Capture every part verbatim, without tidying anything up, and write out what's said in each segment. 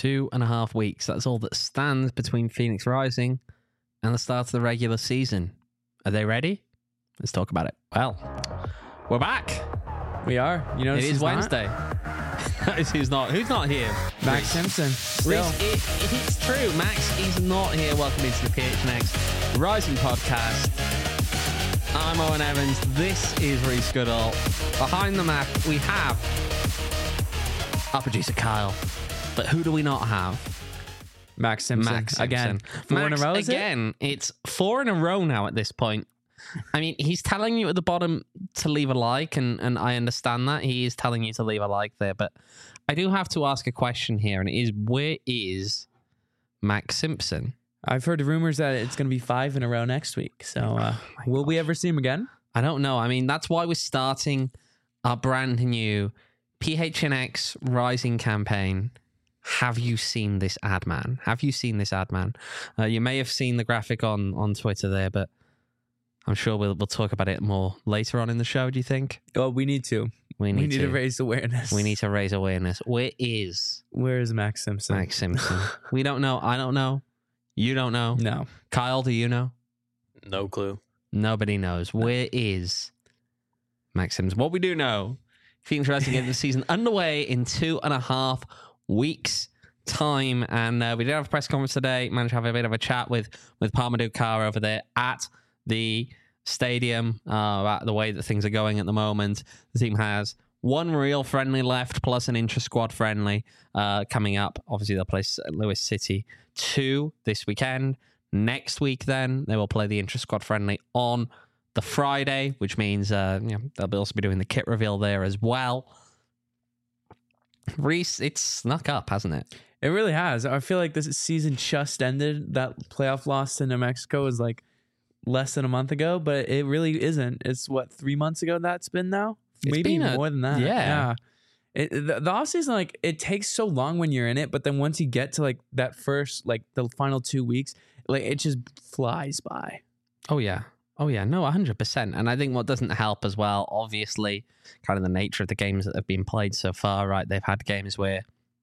Two and a half weeks. That's all that stands between Phoenix Rising and the start of the regular season. Are they ready? Let's talk about it. Well, we're back. We are. You know, it is Wednesday. who's not? Who's not here? Max Simpson. Reese, it, it's true. Max is not here. Welcome into the P H N X Rising podcast. I'm Owen Evans. This is Reese Goodall. Behind the map, we have our producer Kyle. But who do we not have? Max Simpson. Max Simpson. Again. Four Max, in a row, is again, it? It's four in a row now at this point. I mean, he's telling you at the bottom to leave a like, and, and I understand that. He is telling you to leave a like there. But I do have to ask a question here, and it is, where is Max Simpson? I've heard rumors that it's going to be five in a row next week. So uh, oh will gosh. we ever see him again? I don't know. I mean, that's why we're starting our brand new P H N X Rising campaign. Have you seen this ad, man? Have you seen this ad, man? Uh, you may have seen the graphic on, on Twitter there, but I'm sure we'll we'll talk about it more later on in the show, do you think? Oh, we need to. We need, we need to. to raise awareness. We need to raise awareness. Where is... Where is Max Simpson? Max Simpson. We don't know. I don't know. You don't know. No. Kyle, do you know? No clue. Nobody knows. Where is Max Simpson? What we do know, Phoenix Rising get the season underway in two and a half weeks time, and uh, we did have a press conference today. Managed to have a bit of a chat with with Parmadou Carr over there at the stadium uh, about the way that things are going at the moment. The team has one real friendly left plus an intra-squad friendly uh, coming up. Obviously they'll play Saint Louis City two this weekend. Next week then they will play the intra-squad friendly on the Friday, which means uh, you know, they'll also be doing the kit reveal there as well. Reese, it's snuck up, hasn't it? It really has. I feel like this season just ended. That playoff loss to New Mexico was like less than a month ago, but it really isn't. It's what, three months ago that's been now? It's Maybe been a, more than that. Yeah. yeah. It, the, the offseason, like, it takes so long when you're in it, but then once you get to like that first, like the final two weeks, like it just flies by. Oh, yeah. Oh, yeah. No, one hundred percent. And I think what doesn't help as well, obviously, kind of the nature of the games that have been played so far, right? They've had games where,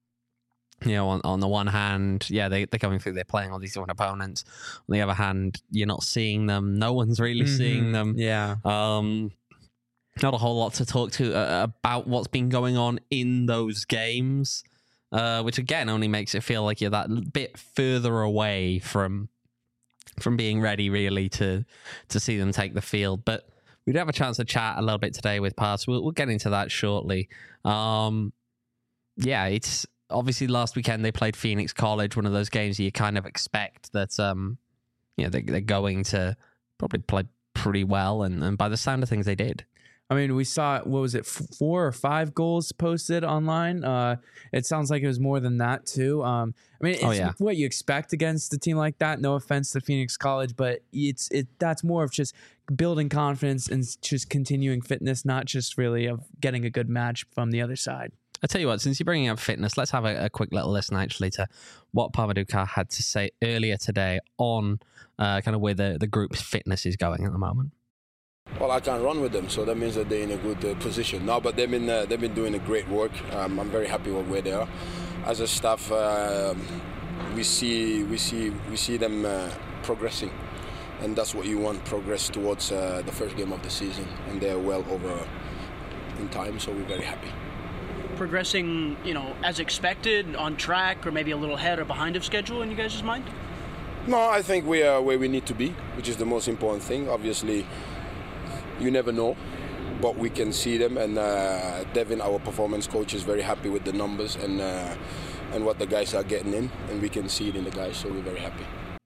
you know, on, on the one hand, yeah, they, they're going through, they're playing all these different opponents. On the other hand, you're not seeing them. No one's really mm-hmm. seeing them. Yeah. Um, not a whole lot to talk to uh, about what's been going on in those games, uh, which, again, only makes it feel like you're that bit further away from... from being ready really to to see them take the field. But we do have a chance to chat a little bit today with Parts. We'll, we'll get into that shortly. Um, yeah, it's obviously last weekend they played Phoenix College, one of those games you kind of expect that um, you know, they, they're going to probably play pretty well, and, and by the sound of things, they did. I mean, we saw, what was it, four or five goals posted online. Uh, it sounds like it was more than that, too. Um, I mean, it's oh, yeah. what you expect against a team like that. No offense to Phoenix College, but it's it that's more of just building confidence and just continuing fitness, not just really of getting a good match from the other side. I tell you what, since you're bringing up fitness, let's have a, a quick little listen, actually, to what Parmadou Carr had to say earlier today on uh, kind of where the, the group's fitness is going at the moment. Well, I can't run with them, so that means that they're in a good uh, position. No, but they've been uh, they've been doing a great work. Um, I'm very happy with where they are. As a staff, uh, we see we see we see them uh, progressing, and that's what you want: progress towards uh, the first game of the season. And they're well over in time, so we're very happy. Progressing, you know, as expected, on track, or maybe a little ahead or behind of schedule in you guys' mind? No, I think we are where we need to be, which is the most important thing. Obviously, you never know, but we can see them, and uh, Devin, our performance coach, is very happy with the numbers and uh, and what the guys are getting in, and we can see it in the guys, so we're very happy.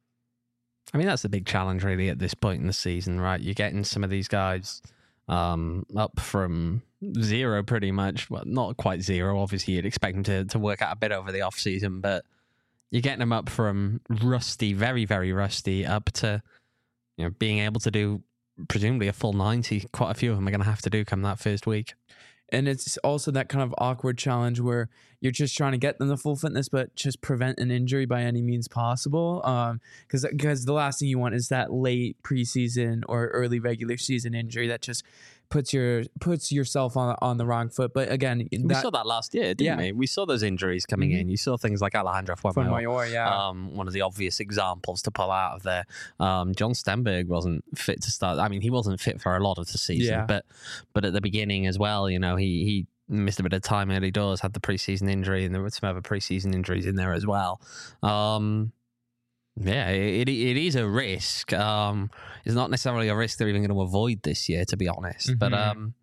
I mean, that's the big challenge really at this point in the season, right? You're getting some of these guys um, up from zero pretty much. Well, not quite zero. Obviously, you'd expect them to, to work out a bit over the off-season, but you're getting them up from rusty, very, very rusty, up to, you know, being able to do presumably a full ninety. Quite a few of them are going to have to do come that first week. And it's also that kind of awkward challenge where you're just trying to get them to full fitness, but just prevent an injury by any means possible. Um, because because the last thing you want is that late preseason or early regular season injury that just puts your puts yourself on on the wrong foot. But again, We that, saw that last year, didn't Yeah. we? We saw those injuries coming Mhm. in. You saw things like Alejandro Fuenmayor. Fuenmayor, yeah. Um, one of the obvious examples to pull out of there. Um, John Stenberg wasn't fit to start. I mean, he wasn't fit for a lot of the season, Yeah. but but at the beginning as well, you know, he he missed a bit of time early doors, had the preseason injury, and there were some other preseason injuries in there as well. Um, yeah, it, it is a risk. Um, it's not necessarily a risk they're even going to avoid this year, to be honest. But Mhm. um,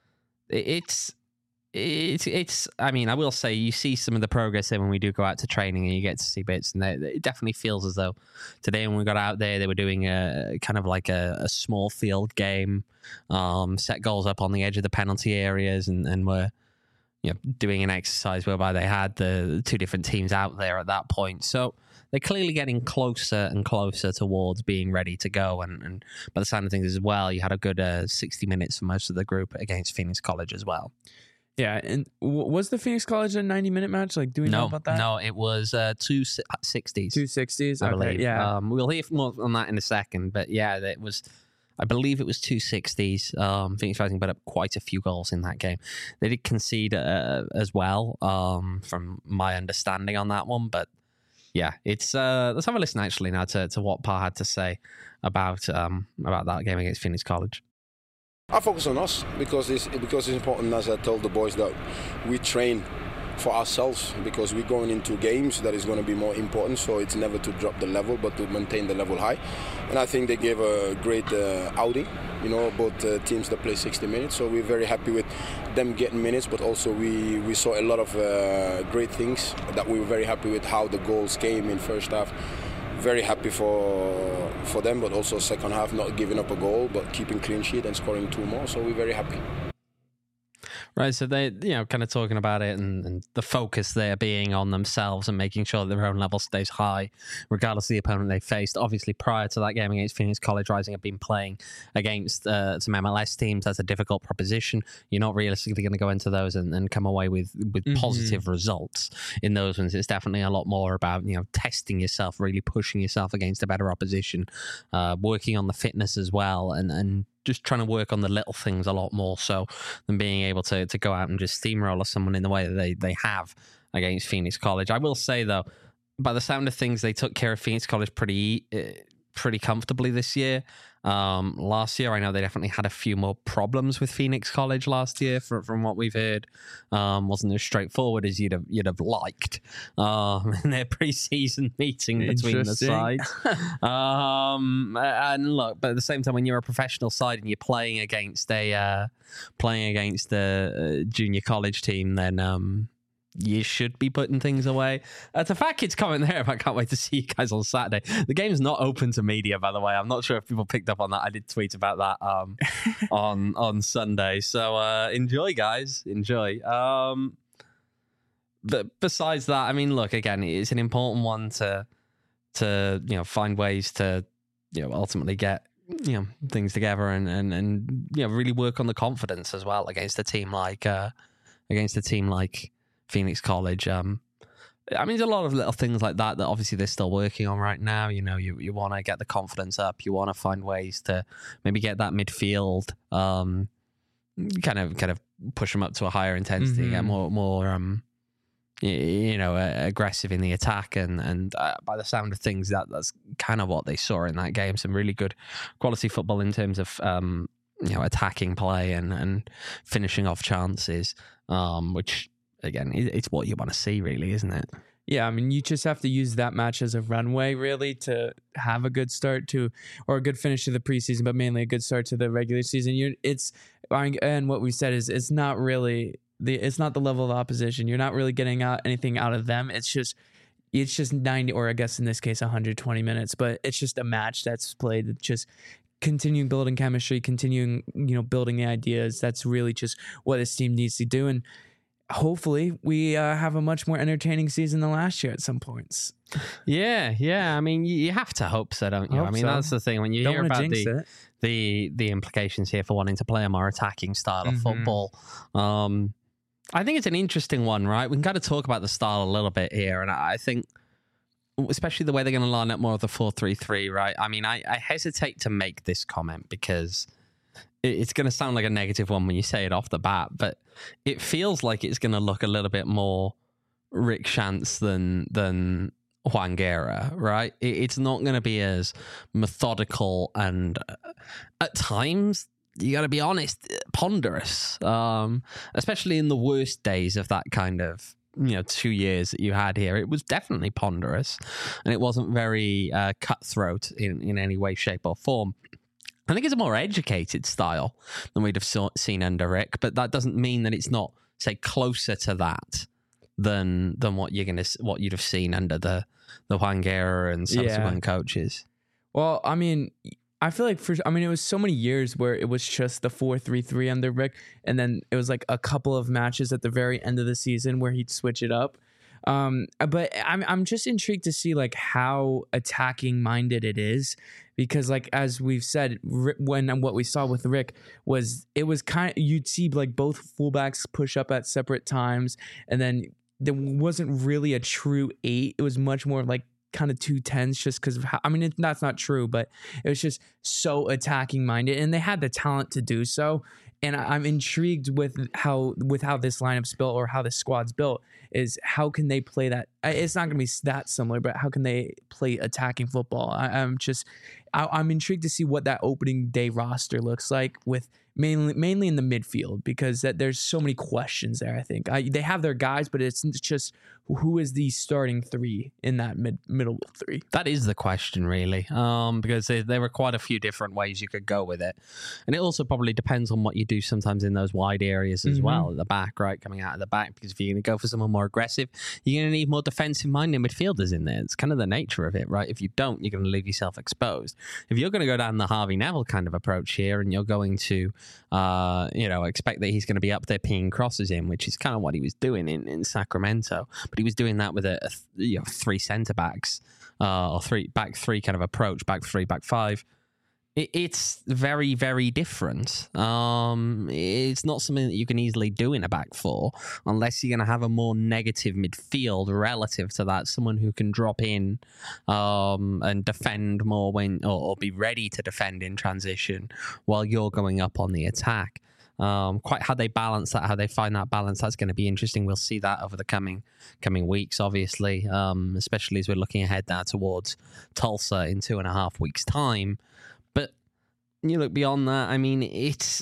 it, it's it's it's. I mean, I will say you see some of the progress there when we do go out to training and you get to see bits, and they, it definitely feels as though today when we got out there, they were doing a kind of like a, a small field game, um, set goals up on the edge of the penalty areas, and and were you know doing an exercise whereby they had the two different teams out there at that point. So they're clearly getting closer and closer towards being ready to go. And, and by the sound of things as well, you had a good uh, sixty minutes for most of the group against Phoenix College as well. Yeah, and w- was the Phoenix College a ninety minute match? Like, do we know No, about that? no, it was uh, two sixties. Two sixties. I Okay, believe. yeah. Um, we'll hear more on that in a second, but yeah, it was. I believe it was two sixties. Um, Phoenix Rising put up quite a few goals in that game. They did concede uh, as well, um, from my understanding on that one. But yeah, it's uh, let's have a listen actually now to, to what Pa had to say about um, about that game against Phoenix College. I focus on us because it's because it's important, as I told the boys, that we train for ourselves, because we're going into games that is going to be more important. So it's never to drop the level, but to maintain the level high. And I think they gave a great uh, outing. You know, both uh, teams that play sixty minutes. So we're very happy with them getting minutes, but also we we saw a lot of uh, great things that we were very happy with how the goals came in first half. Very happy for for them, but also second half not giving up a goal, but keeping clean sheet and scoring two more. So we're very happy. Right, so they, you know, kind of talking about it and, and the focus there being on themselves and making sure that their own level stays high, regardless of the opponent they faced. Obviously, prior to that game against Phoenix College, Rising have been playing against uh, some M L S teams. That's a difficult proposition. You're not realistically going to go into those and, and come away with, with Mhm. positive results in those ones. It's definitely a lot more about, you know, testing yourself, really pushing yourself against a better opposition, uh, working on the fitness as well, and, and just trying to work on the little things a lot more so than being able to to go out and just steamroller someone in the way that they, they have against Phoenix College. I will say, though, by the sound of things, they took care of Phoenix College pretty uh, pretty comfortably this year. Um, last year, I know they definitely had a few more problems with Phoenix College last year, from, from what we've heard. Um, wasn't as straightforward as you'd have you'd have liked um, in their preseason meeting between the Interesting. sides. um, and look, but at the same time, when you're a professional side and you're playing against a uh, playing against a, a junior college team, then um, you should be putting things away. Uh, to Fat Kids comment there, I can't wait to see you guys on Saturday. The game's not open to media, by the way. I'm not sure if people picked up on that. I did tweet about that um, on on Sunday. So uh, enjoy, guys. Enjoy. Um, but besides that, I mean, look, again, it's an important one to to you know find ways to you know ultimately get you know things together and and and you know really work on the confidence as well against a team like uh, against a team like Phoenix College. Um, I mean, there's a lot of little things like that that obviously they're still working on right now. You know, you, you want to get the confidence up. You want to find ways to maybe get that midfield, um, kind of kind of push them up to a higher intensity, Mhm. get more more um, y- you know, uh, aggressive in the attack. And and uh, by the sound of things, that that's kind of what they saw in that game. Some really good quality football in terms of um, you know, attacking play and and finishing off chances, um, which. Again, it's what you want to see, really, isn't it? Yeah, I mean, you just have to use that match as a runway, really, to have a good start to, or a good finish to the preseason, but mainly a good start to the regular season. You're, it's, and what we said is, it's not really the, it's not the level of opposition. You're not really getting out anything out of them. It's just, it's just ninety, or I guess in this case, one hundred twenty minutes. But it's just a match that's played. It's just continuing building chemistry, continuing, you know, building the ideas. That's really just what this team needs to do, and hopefully we uh, have a much more entertaining season than last year at some points. Yeah, yeah. I mean, you you have to hope so, don't you? Hope I mean, so. that's the thing. When you Don't hear wanna about jinx the, it. the the implications here for wanting to play a more attacking style of Mhm. football, um, I think it's an interesting one, right? We can kind of talk about the style a little bit here, and I think, especially the way they're going to line up more of the four three three, right? I mean, I, I hesitate to make this comment because it- it's going to sound like a negative one when you say it off the bat, but it feels like it's going to look a little bit more Rick Chance than than Juan Guerra, right? It, it's not going to be as methodical and uh, at times, you got to be honest, ponderous, um, especially in the worst days of that kind of, you know, two years that you had here. It was definitely ponderous, and it wasn't very uh, cutthroat in, in any way, shape, or form. I think it's a more educated style than we'd have saw, seen under Rick, but that doesn't mean that it's not, say, closer to that than than what you're gonna what you'd have seen under the the Juan Guerra and subsequent Yeah. coaches. Well, I mean, I feel like for I mean, it was so many years where it was just the four three three under Rick, and then it was like a couple of matches at the very end of the season where he'd switch it up. Um, but I'm I'm just intrigued to see like how attacking minded it is, because like as we've said, Ri- when and what we saw with Rick was it was kind of, you'd see like both fullbacks push up at separate times, and then there wasn't really a true eight. It was much more like kind of two tens, just because of how, I mean it, that's not true, but it was just so attacking minded, and they had the talent to do so. And I- I'm intrigued with how with how this lineup's built, or how this squad's built, is how can they play that? I- It's not going to be that similar, but how can they play attacking football? I, I'm just, I, I'm intrigued to see what that opening day roster looks like, with mainly mainly in the midfield, because that there's so many questions there. I think I, they have their guys, but it's just who is the starting three in that mid middle three. That is the question, really, um, because there, there were quite a few different ways you could go with it. And it also probably depends on what you do sometimes in those wide areas as Mhm. well, at the back, right, coming out of the back, because if you're going to go for someone more aggressive, you're going to need more defensive-minded midfielders in there. It's kind of the nature of it, right? If you don't, you're going to leave yourself exposed. If you're going to go down the Harvey Neville kind of approach here, and you're going to, uh, you know, expect that he's going to be up there pinging crosses in, which is kind of what he was doing in, in Sacramento, but he was doing that with a, a th- you know, three centre backs, uh, or three back three kind of approach, back three, back five. It, it's very, very different. Um, it's not something that you can easily do in a back four, unless you're going to have a more negative midfield relative to that, someone who can drop in um, and defend more when, or, or be ready to defend in transition while you're going up on the attack. Um, quite how they balance that, how they find that balance, that's going to be interesting. We'll see that over the coming coming weeks, obviously, um, especially as we're looking ahead now towards Tulsa in two and a half weeks' time. But you look beyond that, I mean, it's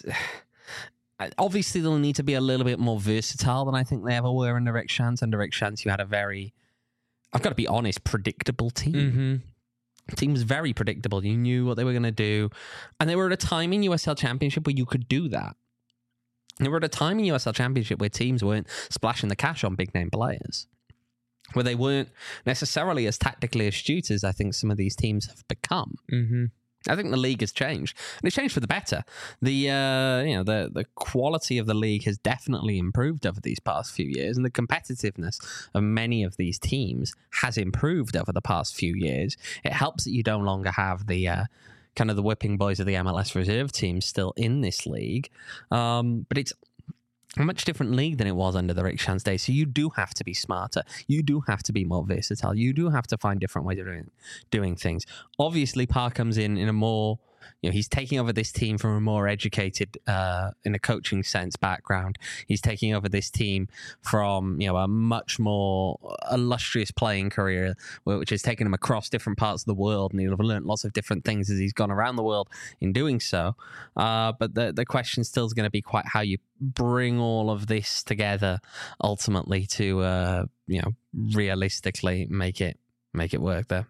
obviously they'll need to be a little bit more versatile than I think they ever were under Rick Chance. Under Rick Chance, you had a very, I've got to be honest, predictable team. Mm-hmm. The team was very predictable. You knew what they were going to do, and they were at a time in U S L Championship where you could do that. They were at a time in U S L Championship where teams weren't splashing the cash on big name players, where they weren't necessarily as tactically astute as I think some of these teams have become. Mm-hmm. I think the league has changed, and it's changed for the better. The uh, you know the the quality of the league has definitely improved over these past few years, and the competitiveness of many of these teams has improved over the past few years. It helps that you no longer have the uh, kind of the whipping boys of the M L S reserve team still in this league. Um, but it's a much different league than it was under the Rick Chance days. So you do have to be smarter. You do have to be more versatile. You do have to find different ways of doing, doing things. Obviously, Parr comes in in a more, you know, he's taking over this team from a more educated, uh, in a coaching sense, background. He's taking over this team from, you know, a much more illustrious playing career, which has taken him across different parts of the world, and he'll have learned lots of different things as he's gone around the world in doing so. Uh, but the the question still is going to be quite how you bring all of this together ultimately to, uh, you know, realistically make it make it work there.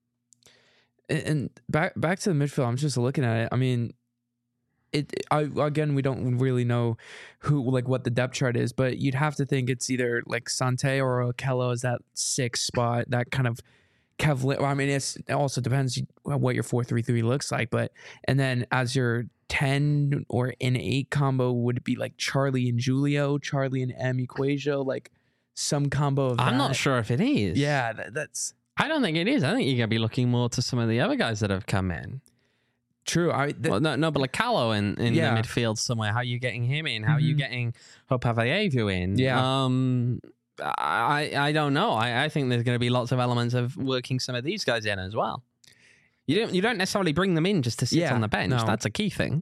And back back to the midfield, I'm just looking at it. I mean, it. I again, we don't really know who, like, what the depth chart is, but you'd have to think it's either like Sante or Okello is that sixth spot, that kind of Kevlin. I mean, it's, it also depends what your four three three looks like, but and then as your ten or an eight combo, would it be like Charlie and Julio, Charlie and M Equajo, like some combo of that? I'm not sure if it is. Yeah, that, that's. I don't think it is. I think you're going to be looking more to some of the other guys that have come in. True. I th- Well, no, no, but like Callow in, in Yeah. the midfield somewhere. How are you getting him in? How are you Mhm. getting Hope Avayevu in? Yeah. Um, I I don't know. I, I think there's going to be lots of elements of working some of these guys in as well. You don't you don't necessarily bring them in just to sit Yeah, on the bench. no. That's a key thing.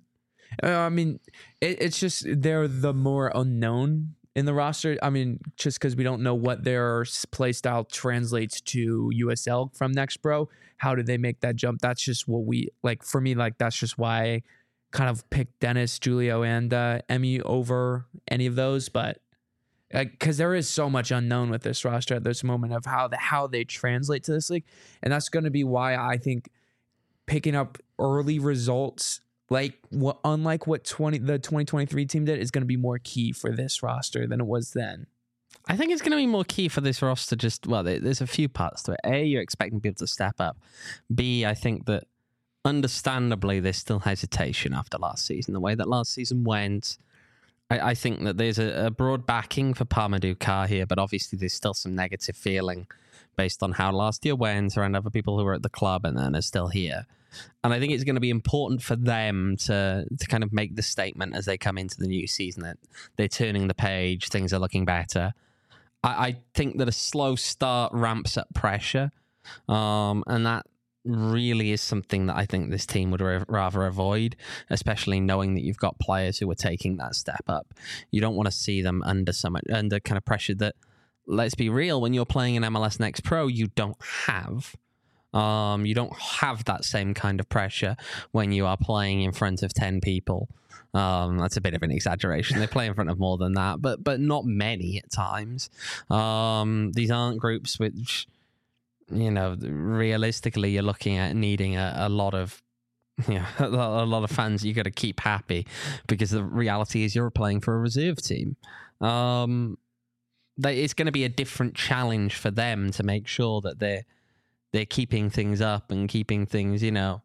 Uh, I mean, it, it's just they're the more unknown in the roster. I mean, just because we don't know what their play style translates to U S L from Next Pro. How do they make that jump? That's just what we like. For me, like that's just why I kind of picked Dennis, Julio, and uh, Emmy over any of those. But because there is so much unknown with this roster at this moment of how the how they translate to this league, and that's going to be why I think picking up early results. Like what, unlike what twenty the twenty twenty-three team did, is going to be more key for this roster than it was then. I think it's going to be more key for this roster. Just well, there, there's a few parts to it. A, you're expecting people to step up. B, I think that understandably there's still hesitation after last season. The way that last season went, I, I think that there's a, a broad backing for Parmadou Carr here, but obviously there's still some negative feeling based on how last year went around other people who were at the club and then are still here. And I think it's going to be important for them to to kind of make the statement as they come into the new season that they're turning the page, things are looking better. I, I think that a slow start ramps up pressure, um, and that really is something that I think this team would ra- rather avoid, especially knowing that you've got players who are taking that step up. You don't want to see them under some under kind of pressure that, let's be real, when you're playing in M L S Next Pro, you don't have. Um, you don't have that same kind of pressure when you are playing in front of ten people. Um, that's a bit of an exaggeration. They play in front of more than that, but but not many at times. Um, these aren't groups which, you know, realistically you're looking at needing a, a lot of, you know, a lot of fans you got to keep happy, because the reality is you're playing for a reserve team. Um, they, it's going to be a different challenge for them to make sure that they're they're keeping things up and keeping things, you know,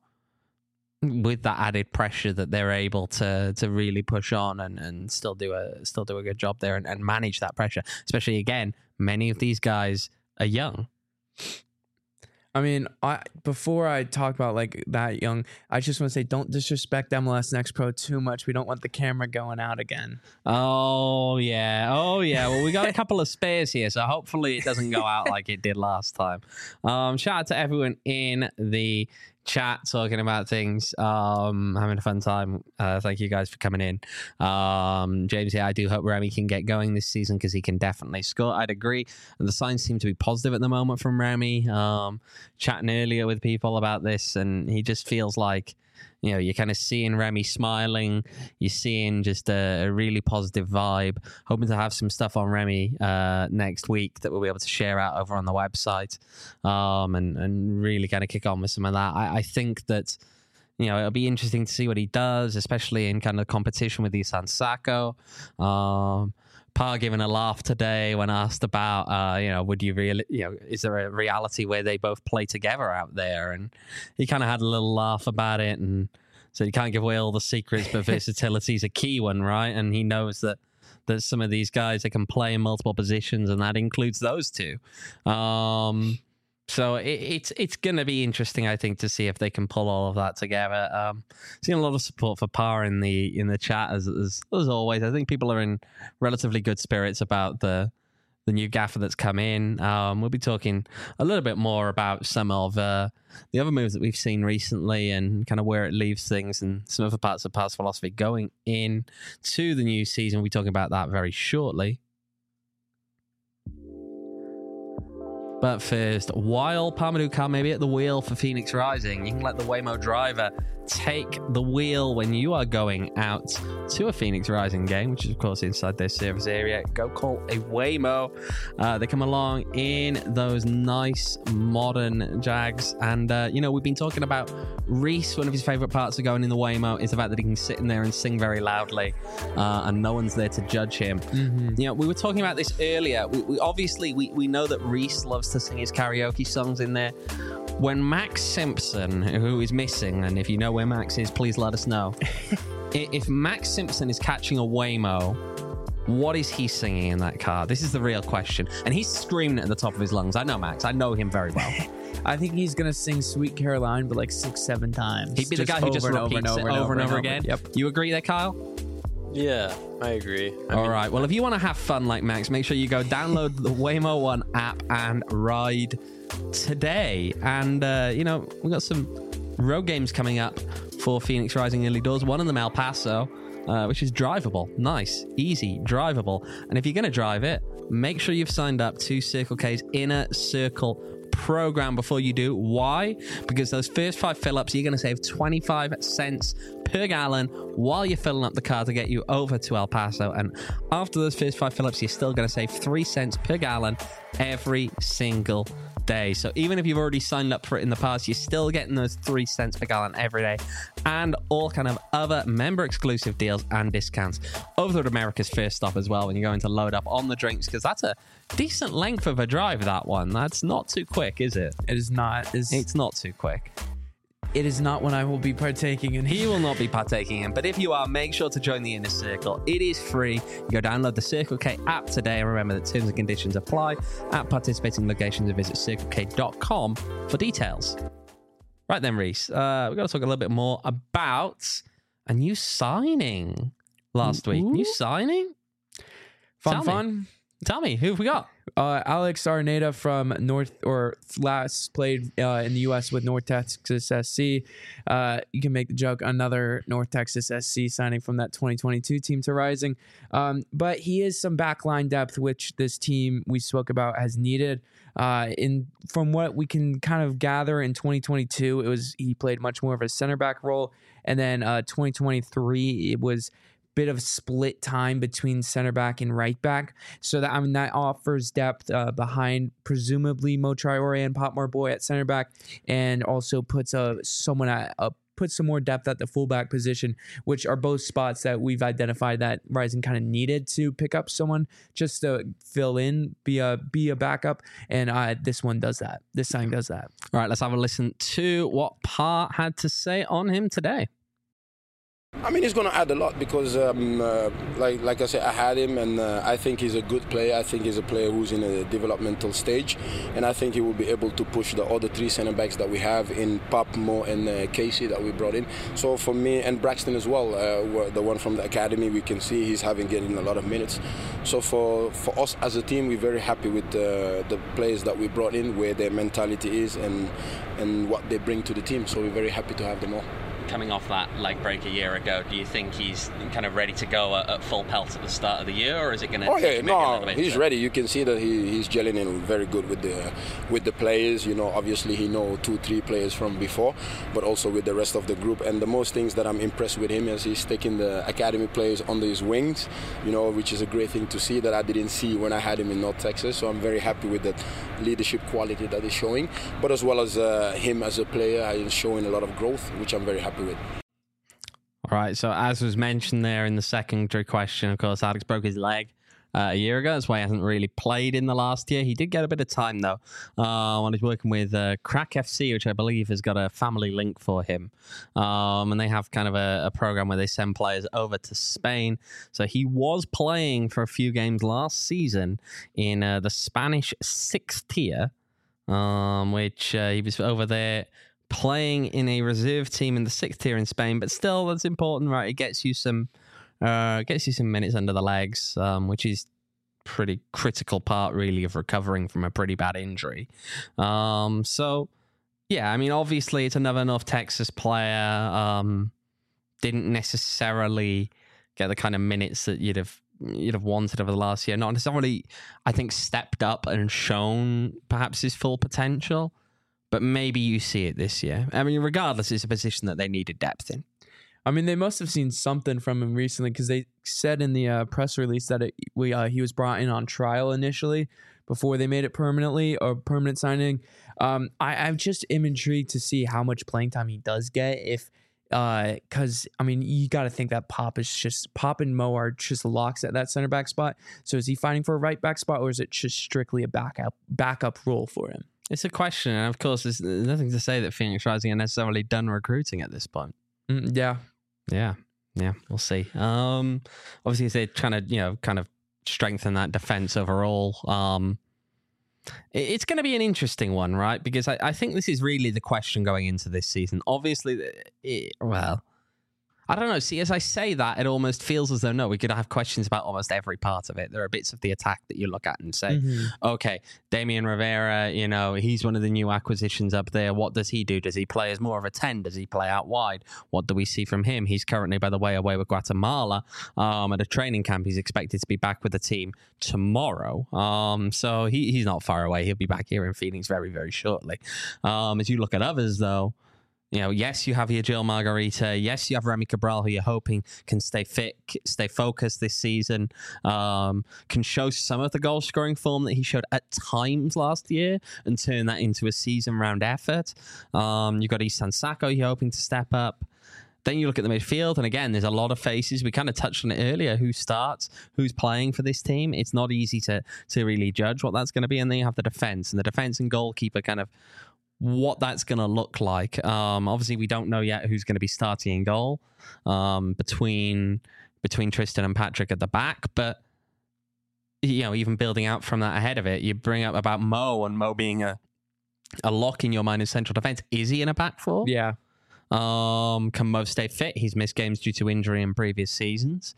with that added pressure that they're able to to really push on and, and still do a still do a good job there and, and manage that pressure. Especially, again, many of these guys are young. I mean, I before I talk about like that young, I just want to say don't disrespect M L S Next Pro too much. We don't want the camera going out again. Oh yeah, oh yeah. Well, we got a couple of spares here, so hopefully it doesn't go out like it did last time. Um, shout out to everyone in the chat talking about things, um, having a fun time. Uh, thank you guys for coming in. Um, James, yeah, I do hope Remy can get going this season because he can definitely score. I'd agree. And the signs seem to be positive at the moment from Remy. Um, chatting earlier with people about this, and he just feels like, you know, you're kind of seeing Remy smiling. You're seeing just a, a really positive vibe. Hoping to have some stuff on Remy uh, next week that we'll be able to share out over on the website, um, and, and really kind of kick on with some of that. I, I think that, you know, it'll be interesting to see what he does, especially in kind of competition with Isan Sako. Um, Parr giving a laugh today when asked about, uh, you know, would you really, you know, is there a reality where they both play together out there? And he kind of had a little laugh about it, and so you can't give away all the secrets, but versatility is a key one, right? And he knows that there's some of these guys that can play in multiple positions, and that includes those two. Um, So it, it's it's going to be interesting, I think, to see if they can pull all of that together. Um, seeing a lot of support for Parr in the in the chat as, as as always. I think people are in relatively good spirits about the the new gaffer that's come in. Um, we'll be talking a little bit more about some of uh, the other moves that we've seen recently and kind of where it leaves things and some other parts of Parr's philosophy going in to the new season. We'll be talking about that very shortly. But first, while Parmadou Carr may be at the wheel for Phoenix Rising, you can let the Waymo driver take the wheel when you are going out to a Phoenix Rising game, which is, of course, inside their service area. Go call a Waymo. Uh, they come along in those nice modern Jags. And, uh, you know, we've been talking about Reese. One of his favorite parts of going in the Waymo is the fact that he can sit in there and sing very loudly, uh, and no one's there to judge him. Mm-hmm. You know, we were talking about this earlier. We, we obviously, we, we know that Reese loves to sing his karaoke songs in there. When Max Simpson, who is missing, and if you know where Max is, please let us know. If Max Simpson is catching a Waymo, what is he singing in that car? This is the real question. And he's screaming at the top of his lungs. I know Max. I know him very well. I think he's going to sing Sweet Caroline, but like six, seven times. He'd be the guy who just repeats it over and over again. Yep. You agree there, Kyle? Yeah, I agree. I All mean, right. Well, if you want to have fun like Max, make sure you go download the Waymo One app and ride today. And, uh, you know, we've got some road games coming up for Phoenix Rising early doors. One of them El Paso, uh, which is drivable. Nice, easy, drivable. And if you're going to drive it, make sure you've signed up to Circle K's Inner Circle program before you do. Why? Because those first five fill-ups, you're going to save twenty-five cents per gallon while you're filling up the car to get you over to El Paso. And after those first five fill-ups, you're still going to save three cents per gallon every single day. So even if you've already signed up for it in the past, you're still getting those three cents per gallon every day, and all kind of other member exclusive deals and discounts over to America's first stop as well when you're going to load up on the drinks, because that's a decent length of a drive, that one. That's not too quick, is it? It is not. It's, It's not too quick. it is not one I will be partaking in. He will not be partaking in, but if you are, make sure to join the Inner Circle. It is free. You go download the Circle K app today, and remember that terms and conditions apply at participating locations, and visit circle k dot com for details. Right then, Reese, uh, we've got to talk a little bit more about a new signing last week. Ooh. New signing? Fun, Tell me. fun. Tell me, who have we got? Uh, Alex Arneta from North, or last played uh, in the U S with North Texas S C. Uh, you can make the joke, another North Texas S C signing from that twenty twenty-two team to Rising. Um, but he is some backline depth, which this team we spoke about has needed. Uh, in from what we can kind of gather in twenty twenty-two, it was he played much more of a center back role, and then uh, twenty twenty-three it was bit of split time between center back and right back, so that I mean that offers depth uh, behind presumably Mo Traore and Potmore Boy at center back, and also puts a someone at a put some more depth at the fullback position, which are both spots that we've identified that Rising kind of needed to pick up someone just to fill in, be a be a backup, and uh, this one does that. This signing does that. All right, let's have a listen to what Parr had to say on him today. I mean, he's going to add a lot because, um, uh, like like I said, I had him, and uh, I think he's a good player. I think he's a player who's in a developmental stage, and I think he will be able to push the other three centre backs that we have in Pop, Mo, and uh, Casey that we brought in. So for me, and Braxton as well, uh, the one from the academy, we can see he's having getting a lot of minutes. So for, for us as a team, we're very happy with uh, the players that we brought in, where their mentality is, and and what they bring to the team. So we're very happy to have them all. Coming off that leg break a year ago, do you think he's kind of ready to go at, at full pelt at the start of the year, or is it going to? Oh yeah, no, bit he's to... ready. You can see that he, he's gelling in very good with the with the players. You know, obviously he know two, three players from before, but also with the rest of the group. And the most things that I'm impressed with him is he's taking the academy players under his wings. You know, which is a great thing to see that I didn't see when I had him in North Texas. So I'm very happy with that leadership quality that he's showing, but as well as uh, him as a player, he's showing a lot of growth, which I'm very happy with. All right, so as was mentioned there in the secondary question, of course, Alex broke his leg uh, a year ago. That's why he hasn't really played in the last year. He did get a bit of time, though, uh, when he's working with uh, Crack F C, which I believe has got a family link for him. Um, and they have kind of a, a program where they send players over to Spain. So he was playing for a few games last season in uh, the Spanish sixth tier, um, which uh, he was over there playing in a reserve team in the sixth tier in Spain, but still that's important, right? It gets you some uh gets you some minutes under the legs, um, which is pretty critical part really of recovering from a pretty bad injury. Um so yeah, I mean obviously it's another North Texas player. Um didn't necessarily get the kind of minutes that you'd have you'd have wanted over the last year. Not necessarily, I think, stepped up and shown perhaps his full potential. But maybe you see it this year. I mean, regardless, it's a position that they needed depth in. I mean, they must have seen something from him recently, because they said in the uh, press release that it, we uh, he was brought in on trial initially before they made it permanently or permanent signing. Um, I, I just am intrigued to see how much playing time he does get. If because uh, I mean, you got to think that Pop is just Pop and Mo are just locks at that center back spot. So is he fighting for a right back spot, or is it just strictly a backup backup role for him? It's a question, and of course, there's nothing to say that Phoenix Rising are necessarily done recruiting at this point. Mm, yeah, yeah, yeah. We'll see. Um, obviously, they're trying to, you know, kind of strengthen that defense overall. Um, it, it's going to be an interesting one, right? Because I, I think this is really the question going into this season. Obviously, it, well, I don't know. See, as I say that, it almost feels as though, no, we could have questions about almost every part of it. There are bits of the attack that you look at and say, Mm-hmm. okay, Damian Rivera, you know, he's one of the new acquisitions up there. What does he do? Does he play as more of a ten? Does he play out wide? What do we see from him? He's currently, by the way, away with Guatemala um, at a training camp. He's expected to be back with the team tomorrow. Um, so he, he's not far away. He'll be back here in Phoenix very, very shortly. Um, as you look at others, though, you know, yes, you have your Gil Margarita. Yes, you have Remy Cabral, who you're hoping can stay fit, stay focused this season, um, can show some of the goal-scoring form that he showed at times last year and turn that into a season-round effort. Um, you've got Isan Sako, you're hoping to step up. Then you look at the midfield, and again, there's a lot of faces. We kind of touched on it earlier. Who starts? Who's playing for this team? It's not easy to to really judge what that's going to be. And then you have the defense, and the defense and goalkeeper kind of what that's going to look like. Um, obviously, we don't know yet who's going to be starting in goal um, between between Tristan and Patrick at the back. But, you know, even building out from that ahead of it, you bring up about Mo and Mo being a, a lock in your mind in central defense. Is he in a back four? Yeah. Um, can Mo stay fit? He's missed games due to injury in previous seasons.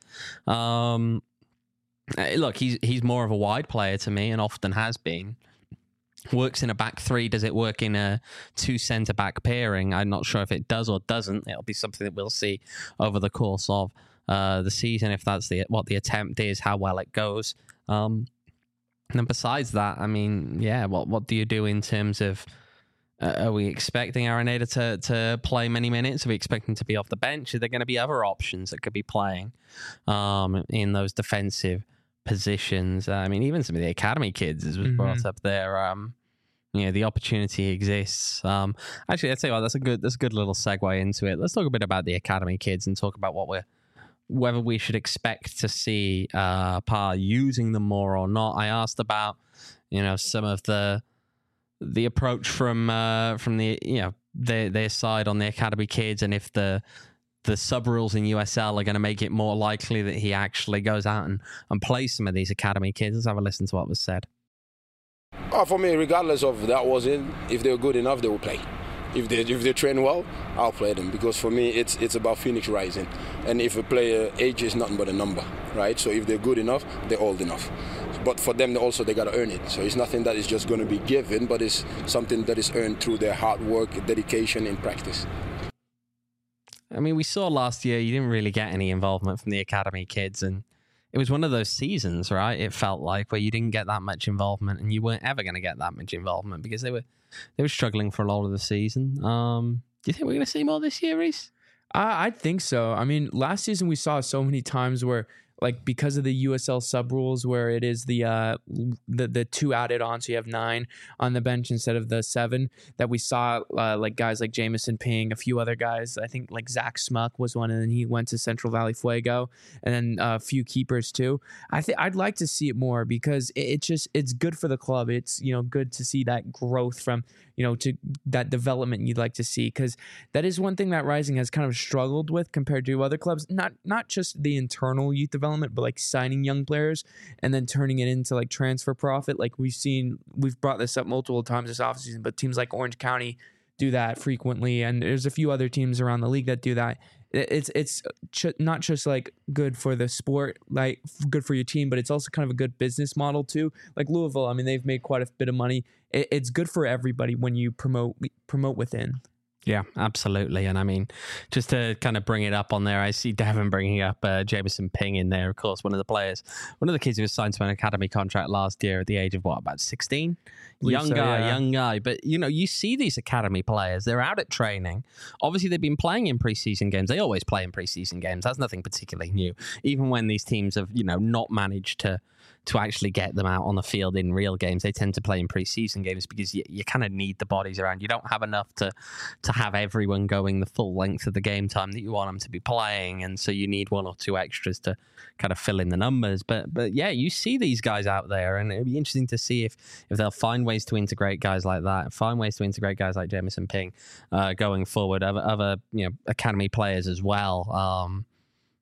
Um, look, he's he's more of a wide player to me and often has been. Works in a back three. Does it work in a two centre back pairing? I'm not sure if it does or doesn't. It'll be something that we'll see over the course of uh, the season, if that's the what the attempt is, how well it goes. Um, and besides that, I mean, yeah, what what do you do in terms of? Uh, are we expecting Araneda to to play many minutes? Are we expecting to be off the bench? Are there going to be other options that could be playing um, in those defensive positions? I mean, even some of the academy kids, as was Mm-hmm. brought up there. Um, you know, the opportunity exists. Um, actually, I'd say, well, that's a good that's a good little segue into it. Let's talk a bit about the academy kids and talk about what we're whether we should expect to see uh, Par using them more or not. I asked about, you know, some of the the approach from uh, from the you know their their side on the academy kids, and if the the sub rules in U S L are going to make it more likely that he actually goes out and, and plays some of these academy kids. Let's have a listen to what was said. Oh, for me, regardless of that was in, if they're good enough, they will play. If they if they train well, I'll play them, because for me it's it's about Phoenix Rising, and if a player age is nothing but a number, right? So if they're good enough, they're old enough. But for them also, they got to earn it. So it's nothing that is just going to be given, but it's something that is earned through their hard work, dedication, and practice. I mean, we saw last year you didn't really get any involvement from the academy kids, and it was one of those seasons, right? It felt like where you didn't get that much involvement, and you weren't ever going to get that much involvement because they were they were struggling for a lot of the season. Um, do you think we're going to see more this year, Reese? I, I think so. I mean, last season we saw so many times where, like, because of the U S L sub rules, where it is the uh the the two added on, so you have nine on the bench instead of the seven, that we saw uh, like guys like Jamison Ping, a few other guys. I think like Zach Smuck was one, and then he went to Central Valley Fuego, and then uh, a few keepers too. I think I'd like to see it more because it, it just it's good for the club. It's you know good to see that growth from you know to that development you'd like to see, because that is one thing that Rising has kind of struggled with compared to other clubs. Not not just the internal youth development, but like signing young players and then turning it into like transfer profit. Like we've seen, we've brought this up multiple times this offseason, but teams like Orange County do that frequently, and there's a few other teams around the league that do that. It's it's ch- not just like good for the sport, like good for your team, but it's also kind of a good business model too. Like Louisville, I mean, they've made quite a bit of money. It, it's good for everybody when you promote promote within. Yeah, absolutely. And I mean, just to kind of bring it up on there, I see Devin bringing up uh, Jamison Ping in there, of course, one of the players, one of the kids who was signed to an academy contract last year at the age of, what, about sixteen? Young so, guy, yeah. young guy. But, you know, you see these academy players, they're out at training. Obviously, they've been playing in preseason games. They always play in preseason games. That's nothing particularly new. Even when these teams have, you know, not managed to to actually get them out on the field in real games, they tend to play in preseason games because you, you kind of need the bodies around. You don't have enough to to have everyone going the full length of the game time that you want them to be playing, and so you need one or two extras to kind of fill in the numbers. But but yeah, you see these guys out there, and it'd be interesting to see if if they'll find ways to integrate guys like that, find ways to integrate guys like Jamison Ping uh, going forward, other, other you know academy players as well. Um,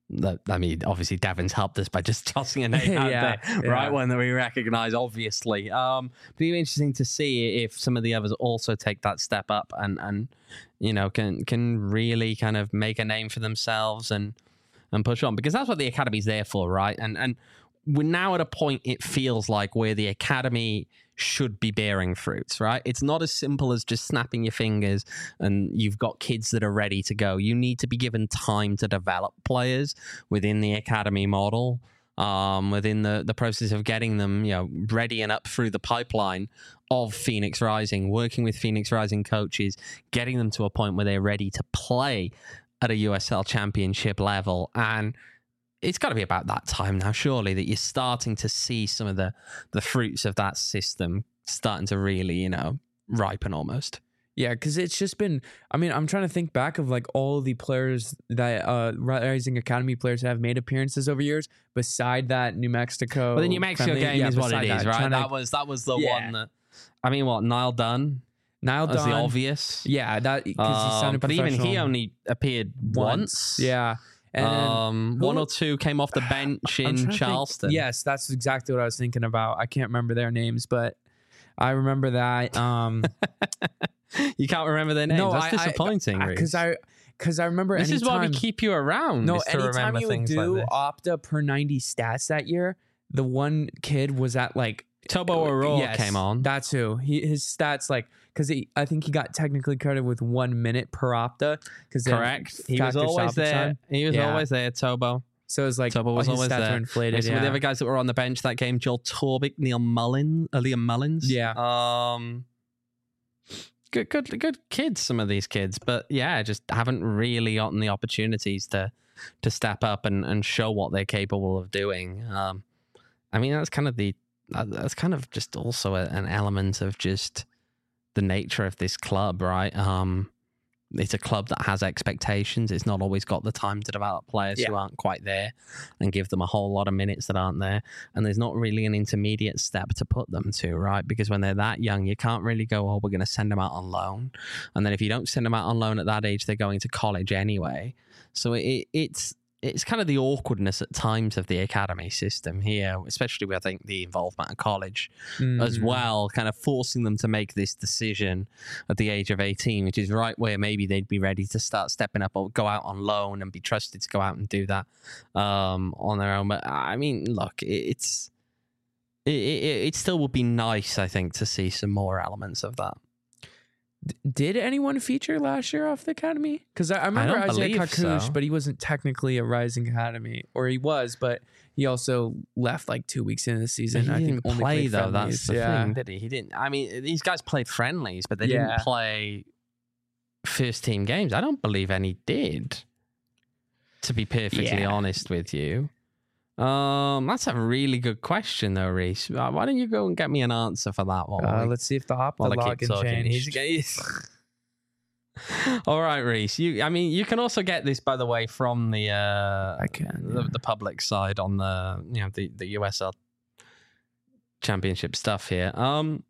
that, I mean, obviously Devin's helped us by just tossing a name out Yeah, there, yeah. right? One that we recognise, obviously. Um, but it'd be interesting to see if some of the others also take that step up and, and you know, can can really kind of make a name for themselves and and push on, because that's what the academy's there for, right? And and we're now at a point, it feels like, where the academy should be bearing fruits, right? It's not as simple as just snapping your fingers and you've got kids that are ready to go. You need to be given time to develop players within the academy model, um, within the, the process of getting them, you know, ready and up through the pipeline of Phoenix Rising, working with Phoenix Rising coaches, getting them to a point where they're ready to play at a U S L championship level. And it's got to be about that time now, surely, that you're starting to see some of the, the fruits of that system starting to really, you know, ripen almost. Yeah, because it's just been, I mean, I'm trying to think back of like all the players that, uh, Rising Academy players that have made appearances over years, beside that New Mexico. But the New Mexico friendly- game yeah, is what it beside is, that, right? trying That to- was that was the Yeah. one that, I mean, what, Niall Dunn Niall was the Dunn. obvious. Yeah, that, because he Um, sounded but even he professional only appeared once. Yeah. And um, who- one or two came off the bench I'm trying in to think- Charleston. Yes, that's exactly what I was thinking about. I can't remember their names, but I remember that. Um, You can't remember their names. no, That's I- disappointing, because Reece. I because I remember This is why we anytime- keep you around. No, is to anytime remember you would things do like this. Opta per ninety stats that year, the one kid was at like Tobo Aurora Yes, came on. That's who. He his stats like because I think he got technically credited with one minute per Opta. Because Correct. He was always there. He was Yeah. always there, Tobo. So it's like Tobo was his always stats there. were inflated. Like some yeah. of the other guys that were on the bench that game, Joel Torbick, Neil Mullins, uh, Liam Mullins. Yeah. Um, good, good, good kids. Some of these kids, but yeah, just haven't really gotten the opportunities to to step up and, and show what they're capable of doing. Um, I mean, that's kind of the uh, that's kind of just also a, an element of just the nature of this club, right? Um, it's a club that has expectations. It's not always got the time to develop players who Yeah. aren't quite there and give them a whole lot of minutes that aren't there. And there's not really an intermediate step to put them to, right? Because when they're that young, you can't really go, oh, we're going to send them out on loan. And then if you don't send them out on loan at that age, they're going to college anyway. So it, it's it's kind of the awkwardness at times of the academy system here, especially with, I think, the involvement of college as Mhm. well, kind of forcing them to make this decision at the age of eighteen, which is right where maybe they'd be ready to start stepping up or go out on loan and be trusted to go out and do that um, on their own. But I mean, look, it, it's it, it, it still would be nice, I think, to see some more elements of that. Did anyone feature last year off the academy? Because I, I remember don't Isaiah believe Kakush, so. but he wasn't technically a Rising Academy, or he was, but he also left like two weeks into the season. He I didn't think only play played though. friendlies. That's the yeah. thing, did he? He didn't. I mean, these guys played friendlies, but they Yeah. didn't play first team games. I don't believe any did. To be perfectly Yeah. honest with you, um, that's a really good question, though, Reece. Uh, Why don't you go and get me an answer for that one? Uh, while we- let's see if the Opta while I keep login talking. changed. He's- All right, Reece. You, I mean, you can also get this, by the way, from the uh, I can, the, yeah. the public side on the you know the the U S L championship stuff here. Um,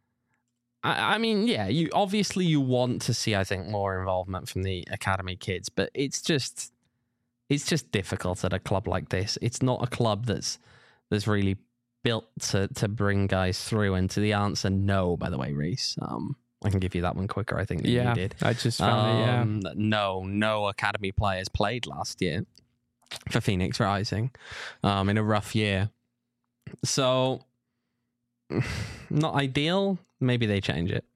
I, I mean, yeah, you obviously you want to see, I think, more involvement from the academy kids, but it's just it's just difficult at a club like this. It's not a club that's that's really built to to bring guys through. And to the answer, no. By the way, Reece, um, I can give you that one quicker, I think, than Yeah, you did. I just found it. Yeah. Um, No, no academy players played last year for Phoenix Rising um, in a rough year. So, not ideal. Maybe they change it.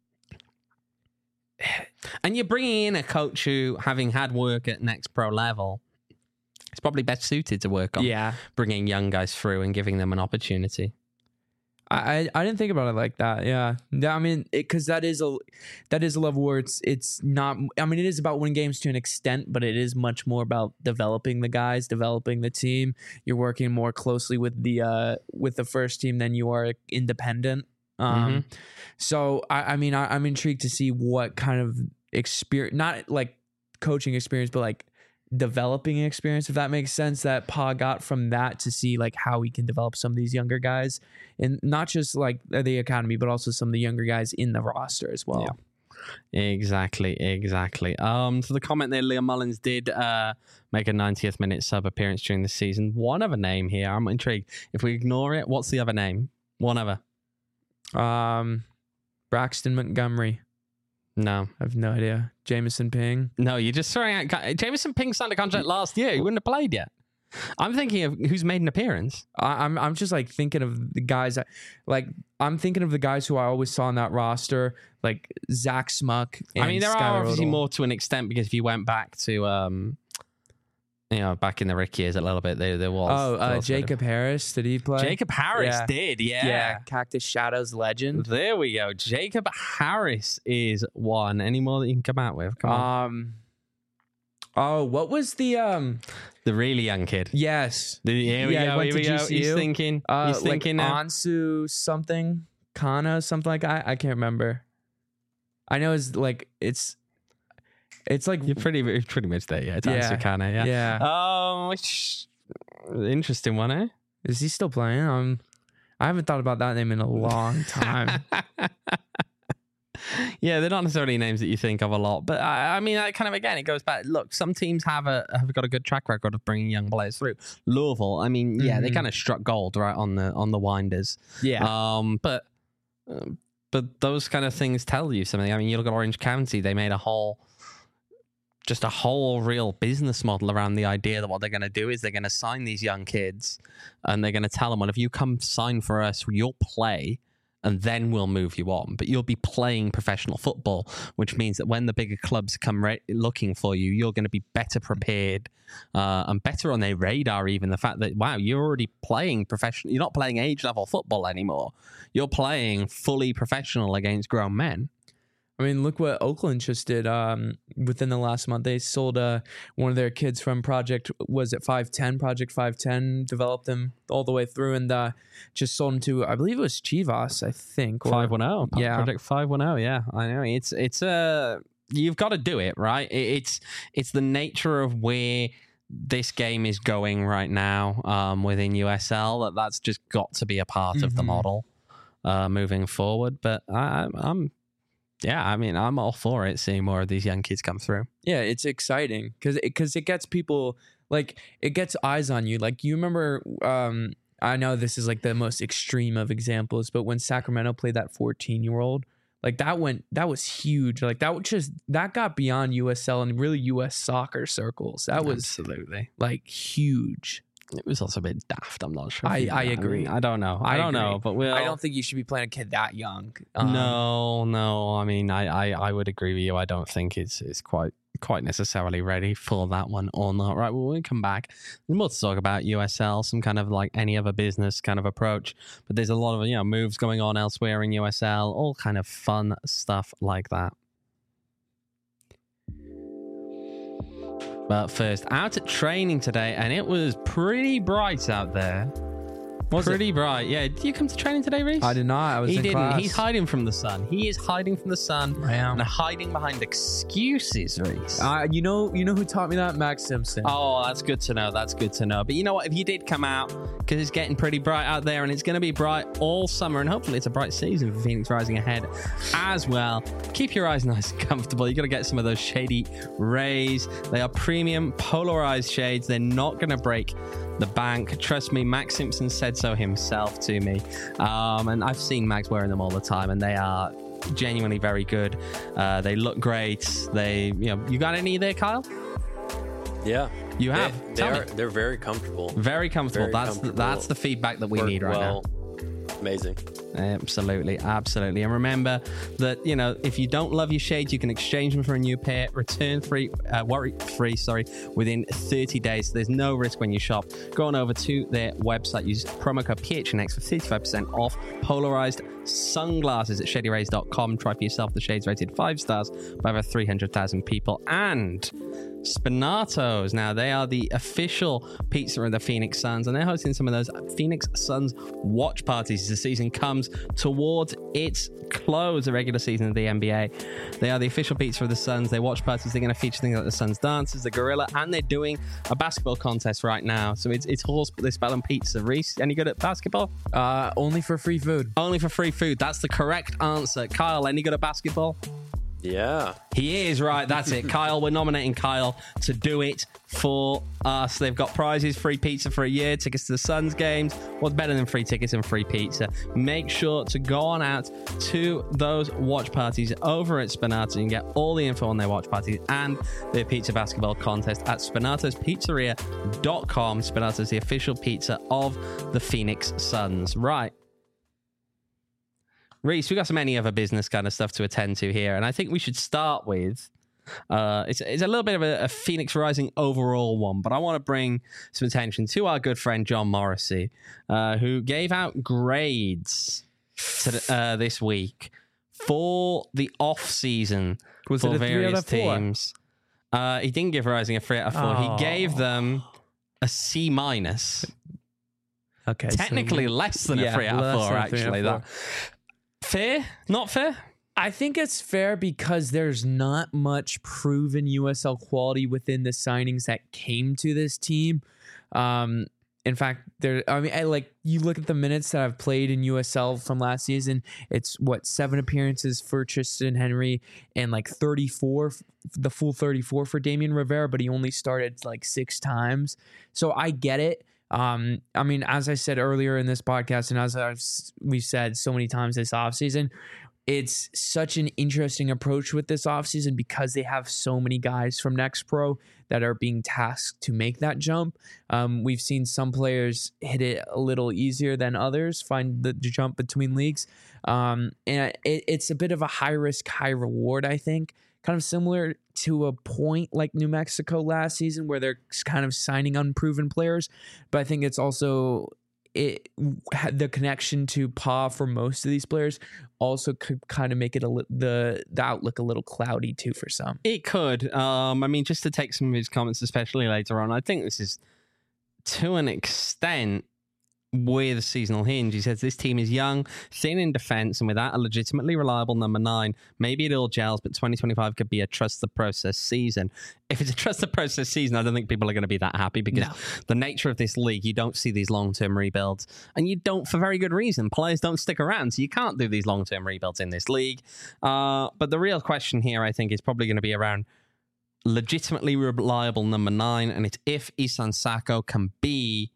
And you're bringing in a coach who, having had work at next pro level, is probably best suited to work on Yeah. bringing young guys through and giving them an opportunity. I, I I didn't think about it like that. Yeah, Yeah, I mean, because that is a that is a level where it's it's not. I mean, it is about winning games to an extent, but it is much more about developing the guys, developing the team. You're working more closely with the uh with the first team than you are independent. Um, so I, I mean, I, I'm intrigued to see what kind of experience, not like coaching experience, but like developing experience, if that makes sense, that Pa got from that to see like how he can develop some of these younger guys, and not just like the academy, but also some of the younger guys in the roster as well. Exactly, exactly. Um, so the comment there, Liam Mullins did uh, make a ninetieth minute sub appearance during the season. One other name here. I'm intrigued. If we ignore it, what's the other name? One other. Um, Braxton Montgomery. No. I have no idea. Jameson Ping. No, you're just throwing out... Jameson Ping signed a contract last year. He wouldn't have played yet. I'm thinking of who's made an appearance. I, I'm I'm just like thinking of the guys that, like I'm thinking of the guys who I always saw on that roster, like Zach Smuck. And I mean, there Skylar are obviously Odell. more to an extent because if you went back to, um, you know, back in the Rick years a little bit, there there was. Oh, there uh, was a bit of- Jacob Harris. Did he play? Jacob Harris Yeah. did, yeah. Yeah, Cactus Shadows legend. There we go. Jacob Harris is one. Any more that you can come out with? Come on. Um. Oh, what was the um? The really young kid. Yes. The, here we Yeah, he go. went Here to we go. G C U. He's thinking. Uh, he's like thinking now. Ansu something, Kana something like I I can't remember. I know it's like it's, it's like You're pretty you're pretty much there. Yeah, it's Yeah. Ansu Kana, yeah. yeah. Um, which interesting one, eh? Is he still playing? Um, I haven't thought about that name in a long time. Yeah, they're not necessarily names that you think of a lot, but I, I mean, that kind of again, it goes back. Look, some teams have a have got a good track record of bringing young players through. Louisville, I mean, yeah, they Mhm. kind of struck gold right on the on the winders. Yeah. Um, but um, but those kind of things tell you something. I mean, you look at Orange County; they made a whole, just a whole real business model around the idea that what they're going to do is they're going to sign these young kids, and they're going to tell them, well, if you come sign for us, you'll play. And then we'll move you on. But you'll be playing professional football, which means that when the bigger clubs come ra- looking for you, you're going to be better prepared uh, and better on their radar. Even the fact that, wow, you're already playing professional. You're not playing age level football anymore. You're playing fully professional against grown men. I mean, look what Oakland just did. Um, within the last month, they sold uh, one of their kids from Project, was it five ten? Project five ten, developed them all the way through and uh, just sold them to, I believe it was Chivas, I think. or- five one zero. Yeah. Project five one zero. Yeah, I know. It's, it's a, you've got to do it, right? It, it's, it's the nature of where this game is going right now um, within U S L, that that's just got to be a part of the Mhm. model uh, moving forward. But I, I'm, yeah, I mean, I'm all for it, seeing more of these young kids come through. Yeah, it's exciting because it, cause it gets people, like, it gets eyes on you. Like, you remember, um, I know this is like the most extreme of examples, but when Sacramento played that fourteen-year-old, like, that went, that was huge. Like, that was just, that got beyond U S L and really U S soccer circles. That was, Absolutely. like, huge. It was also a bit daft. I'm not sure. I- if you- I agree. mean, I don't know. I, I don't know, agree. but we'll. I don't think you should be playing a kid that young. Um, no, no. I mean, I, I, I would agree with you. I don't think it's it's quite quite necessarily ready for that one or not. Right. Well, when we come back, there's more to talk about U S L, some kind of like any other business kind of approach. But there's a lot of, you know, moves going on elsewhere in U S L, all kind of fun stuff like that. But first, out at training today, and it was pretty bright out there. Was it? pretty bright. Yeah. Did you come to training today, Reese? I did not. I was He in didn't. class. He's hiding from the sun. He is hiding from the sun I am. and hiding behind excuses, Reese. Uh, you know, you know who taught me that? Max Simpson. Oh, that's good to know. That's good to know. But you know what? If you did come out, because it's getting pretty bright out there, and it's going to be bright all summer, and hopefully it's a bright season for Phoenix Rising ahead as well. Keep your eyes nice and comfortable. You got to get some of those shady rays. They are premium polarized shades. They're not going to break the bank. Trust me, Max Simpson said so himself to me. Um, and I've seen Max wearing them all the time, and they are genuinely very good. Uh, they look great. They, you know, you got any there, Kyle? Yeah. You They- have. They, Tell are. me. They're very comfortable. Very comfortable. Very that's The, comfortable. that's the feedback that we Work need right well. Amazing. now. Absolutely, absolutely. And remember that, you know, if you don't love your shades, you can exchange them for a new pair, return free, uh, worry free, sorry, within thirty days. So there's no risk when you shop. Go on over to their website, use promo code P H N X for thirty-five percent off polarized sunglasses at shady rays dot com. Try for yourself. The shades rated five stars by over three hundred thousand people. And Spinatos. Now, they are the official pizza of the Phoenix Suns, and they're hosting some of those Phoenix Suns watch parties as the season comes towards its close, the regular season of the N B A. They are the official pizza of the Suns. They watch parties. They're going to feature things like the Suns Dancers, the Gorilla, and they're doing a basketball contest right now. So it's it's horse, they're spelling pizza. Reese, any good at basketball? Uh, only for free food. Only for free food. That's the correct answer. Kyle, any good at basketball? Yeah. He is, right. That's it. Kyle, we're nominating Kyle to do it for us. They've got prizes, free pizza for a year, tickets to the Suns games. What's better than free tickets and free pizza? Make sure to go on out to those watch parties over at Spinato. You can get all the info on their watch parties and their pizza basketball contest at spinatos pizzeria dot com. Spinato is the official pizza of the Phoenix Suns. Right. Reese, we've got some any other business kind of stuff to attend to here, and I think we should start with uh, it's, it's a little bit of a, a Phoenix Rising overall one, but I want to bring some attention to our good friend John Morrissey, uh, who gave out grades to the, uh, this week for the off season Was for it a three out various of four? teams. Uh, he didn't give Rising a three out of four. Oh. He gave them a C minus. Okay, so- Technically less than a Yeah, three out of less four, than a three out of actually. four. That fair? Not fair? I think it's fair because there's not much proven U S L quality within the signings that came to this team. Um, in fact, there. I mean, I, like you look at the minutes that I've played in U S L from last season. It's what seven appearances for Tristan Henry and like thirty-four, the full thirty-four for Damian Rivera, but he only started like six times. So I get it. Um, I mean, as I said earlier in this podcast, and as I've, we've said so many times this offseason, it's such an interesting approach with this offseason because they have so many guys from Next Pro that are being tasked to make that jump. Um, we've seen some players hit it a little easier than others, find the jump between leagues. Um, and it, it's a bit of a high risk, high reward, I think. Kind of similar to a point like New Mexico last season where they're kind of signing unproven players. But I think it's also it the connection to P A for most of these players also could kind of make it a li- the the outlook a little cloudy too for some. It could. Um, I mean, just to take some of his comments, especially later on, I think this is to an extent with seasonal hinge. He says this team is young, thin in defense, and without a legitimately reliable number nine, maybe it all gels, but twenty twenty-five could be a trust the process season. If it's a trust the process season, I don't think people are going to be that happy because No. the nature of this league, you don't see these long-term rebuilds, and you don't for very good reason. Players don't stick around, so you can't do these long-term rebuilds in this league. Uh, but the real question here, I think, is probably going to be around legitimately reliable number nine, and it's if Isan Sako can be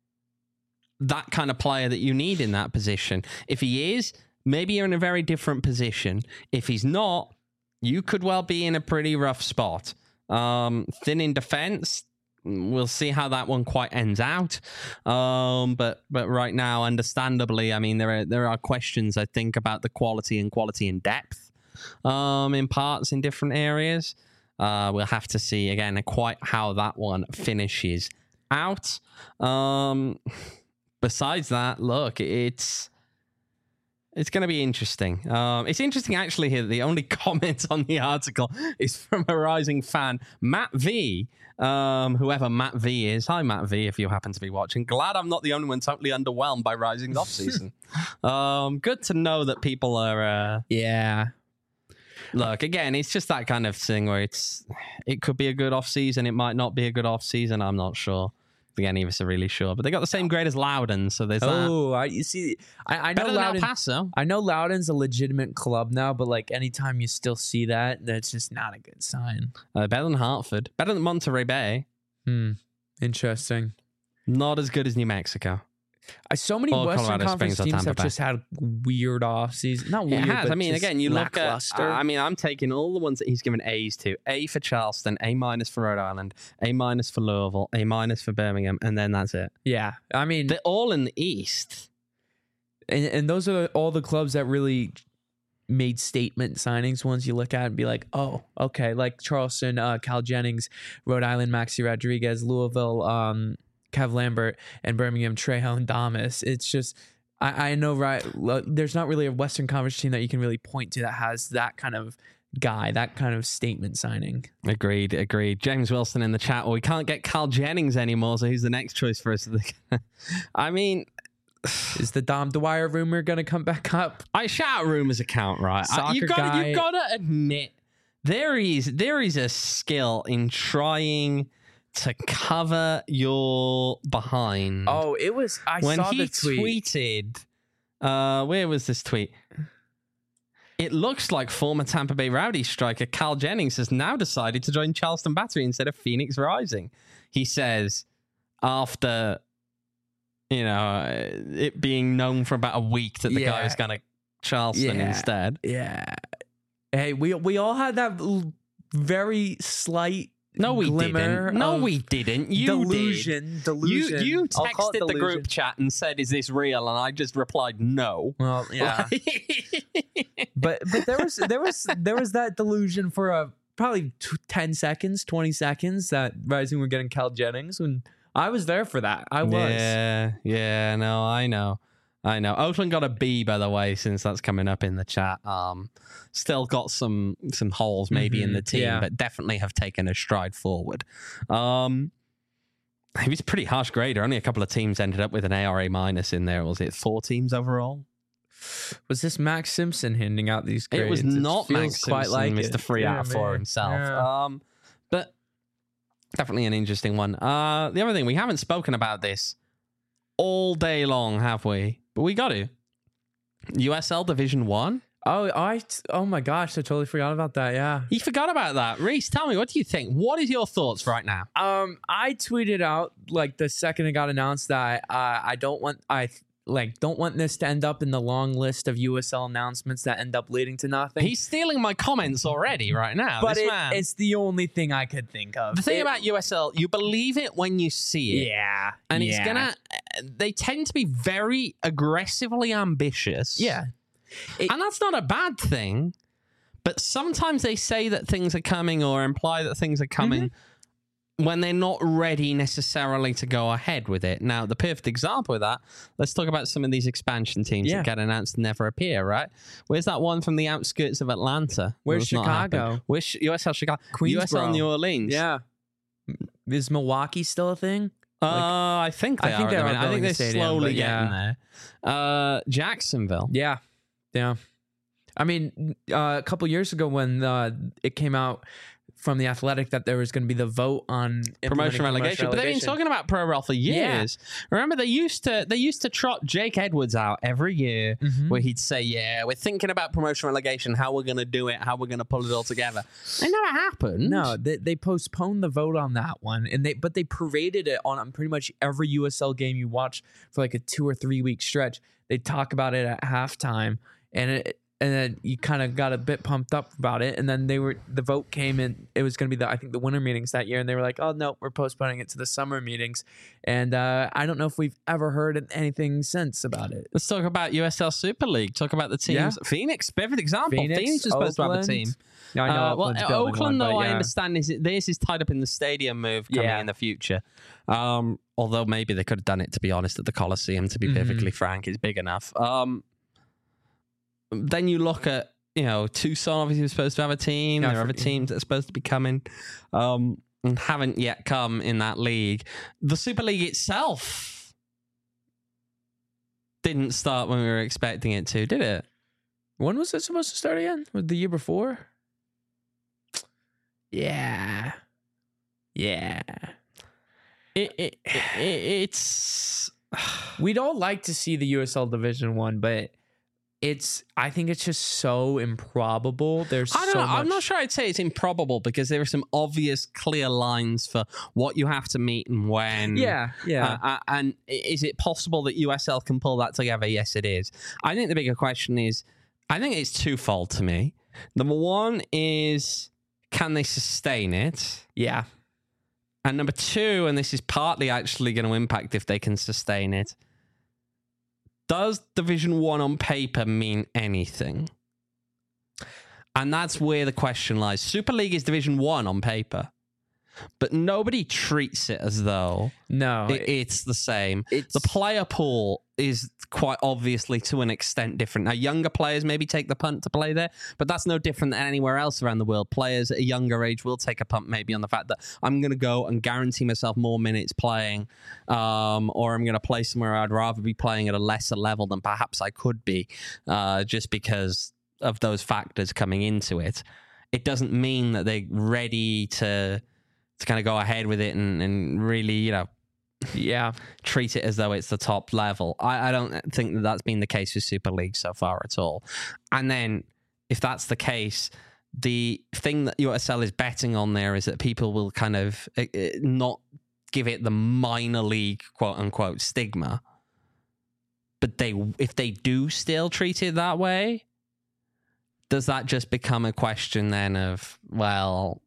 that kind of player that you need in that position. If he is, maybe you're in a very different position. If he's not, you could well be in a pretty rough spot. Um, thin in defense, we'll see how that one quite ends out. Um, but but right now, understandably, I mean, there are there are questions, I think, about the quality and quality and depth um, in parts in different areas. Uh, we'll have to see, again, quite how that one finishes out. Um... Besides that, look, it's it's going to be interesting. Um, it's interesting, actually, here that the only comment on the article is from a Rising fan, Matt V, um, whoever Matt V is. Hi, Matt V, if you happen to be watching. Glad I'm not the only one totally underwhelmed by Rising's offseason. um, good to know that people are... Uh, Yeah. Look, again, it's just that kind of thing where it's it could be a good offseason, it might not be a good offseason, I'm not sure. Again, neither of us are really sure, but they got the same grade as Loudon, so there's that. Oh, I, you see, I, I know Better than El Loudon. Paso. I know Loudon's a legitimate club now, but like anytime you still see that, that's just not a good sign. Uh, better than Hartford. Better than Monterey Bay. Hmm. Interesting. Not as good as New Mexico. I, so many Or Western Colorado Conference Springs or teams Tampa have Bay. just had weird off seasons. Not It weird, has. but I mean, just again, you look at. lackluster. I mean, I'm taking all the ones that he's given A's to. A for Charleston, A minus for Rhode Island, A minus for Louisville, A minus for Birmingham, and then that's it. yeah, I mean, They're all in the East. and, and those are all the clubs that really made statement signings. Ones you look at and be like, oh, okay, like Charleston, uh, Cal Jennings, Rhode Island, Maxi Rodriguez, Louisville, um, Kev Lambert, and Birmingham, Trejon Damas. It's just, I, I know, right? lo- There's not really a Western Conference team that you can really point to that has that kind of guy, that kind of statement signing. Agreed, agreed. James Wilson in the chat. Well, we can't get Cal Jennings anymore, so who's the next choice for us? I mean, Is the Dom Dwyer rumor going to come back up? I shout out rumors account, right? I- Soccer you gotta, guy. you gotta admit there is there is a skill in trying to cover your behind. Oh, it was, I when saw he the tweet. tweeted, uh, where was this tweet? It looks like former Tampa Bay Rowdies striker Cal Jennings has now decided to join Charleston Battery instead of Phoenix Rising. He says after, you know, it being known for about a week that the Yeah. guy was going to Charleston Yeah. instead. Yeah. Hey, we we all had that l- very slight No, we glimmer didn't. No, of we didn't. You delusion. did. Delusion. You, you I'll call it texted the delusion. group chat and said, "Is this real?" And I just replied, "No." Well, yeah. but but there was there was there was that delusion for a probably t- ten seconds, twenty seconds that Rising were getting Cal Jennings, and I was there for that. I was. Yeah, yeah, no, I know. I know. Oakland got a B, by the way, since that's coming up in the chat. Um, still got some some holes maybe in Mhm, the team, yeah. but definitely have taken a stride forward. Um, it was a pretty harsh grader. Only a couple of teams ended up with an A R A minus in there. Was it four teams overall? Was this Max Simpson handing out these grades? It was not feels Max quite Simpson, like Mister it. Three Yeah, out of four man. himself. Yeah. Um, but definitely an interesting one. Uh, the other thing, we haven't spoken about this all day long, have we? But we got to. U S L Division One. Oh, I oh my gosh, I totally forgot about that. Yeah. You forgot about that, Reese. Tell me, what do you think? What is your thoughts right now? Um, I tweeted out like the second it got announced that uh, I don't want I like don't want this to end up in the long list of U S L announcements that end up leading to nothing. He's stealing my comments already right now. but this it, man. it's the only thing I could think of. The thing It- about U S L, you believe it when you see it. yeah, And it's yeah. gonna. They tend to be very aggressively ambitious. yeah. It- And that's not a bad thing, but sometimes they say that things are coming or imply that things are coming when they're not ready necessarily to go ahead with it. Now, the perfect example of that, let's talk about some of these expansion teams Yeah. that get announced and never appear, right? Where's that one from the outskirts of Atlanta? Where's That's not Chicago? happened. Where's U S L Chicago? U S L Queensboro. New Orleans. Yeah. Is Milwaukee still a thing? Uh, I think they I are. think at they the are minute. I think building they're a stadium, slowly but yeah. getting there. Uh, Jacksonville. Yeah, yeah. I mean, uh, a couple years ago when uh, it came out from the Athletic that there was going to be the vote on implementing Promotion relegation, but they've been relegation. talking about pro rel for Yeah. years. Remember, they used to they used to trot Jake Edwards out every year, Mhm. where he'd say, "Yeah, we're thinking about promotion relegation, how we're going to do it, how we're going to pull it all together." It never happened. No, they, they postponed the vote on that one, and they but they paraded it on pretty much every U S L game you watch for like a two or three week stretch. They talk about it at halftime, and it and then you kind of got a bit pumped up about it, and then they were the vote came in. It was going to be the I think the winter meetings that year, and they were like, "Oh no, we're postponing it to the summer meetings," and uh, I don't know if we've ever heard anything since about it. Let's talk about U S L Super League. Talk about the teams. Yeah. Phoenix, perfect example. Phoenix, Phoenix, was supposed to have a Oakland. team. Yeah, I know. Uh, well, Oakland's building Oakland, one, but though, I yeah. understand is this is tied up in the stadium move coming Yeah. in the future. Um, although maybe they could have done it, to be honest, at the Coliseum. To be Mhm. perfectly frank, it's big enough. Um, then you look at you know Tucson. Obviously, was supposed to have a team. Yeah, there are I other forget. teams that are supposed to be coming, um, and haven't yet come in that league. The Super League itself didn't start when we were expecting it to, did it? When was it supposed to start again? Was it the year before? Yeah. Yeah. It, it, it it's. We'd all like to see the U S L Division One, but it's I think it's just so improbable. There's I don't so know. much. I'm not sure I'd say it's improbable because there are some obvious, clear lines for what you have to meet and when. Yeah, yeah. Uh, uh, and i- is it possible that U S L can pull that together? Yes, it is. I think the bigger question is, I think it's twofold to me. Number one is, can they sustain it? yeah. And number two, and this is partly actually going to impact if they can sustain it, does Division One on paper mean anything? And that's where the question lies. Super League is Division One on paper, but nobody treats it as though No. it, it's the same. it's The player pool is quite obviously to an extent different. Now, younger players maybe take the punt to play there, but that's no different than anywhere else around the world. Players at a younger age will take a punt maybe on the fact that I'm going to go and guarantee myself more minutes playing, um, or I'm going to play somewhere I'd rather be playing at a lesser level than perhaps I could be, uh, just because of those factors coming into it. It doesn't mean that they're ready to to kind of go ahead with it and, and really, you know, yeah. treat it as though it's the top level. I, I don't think that that's been the case with Super League so far at all. And then if that's the case, the thing that U S L is betting on there is that people will kind of uh, uh, not give it the minor league quote unquote stigma, but they if they do still treat it that way, does that just become a question then of, well,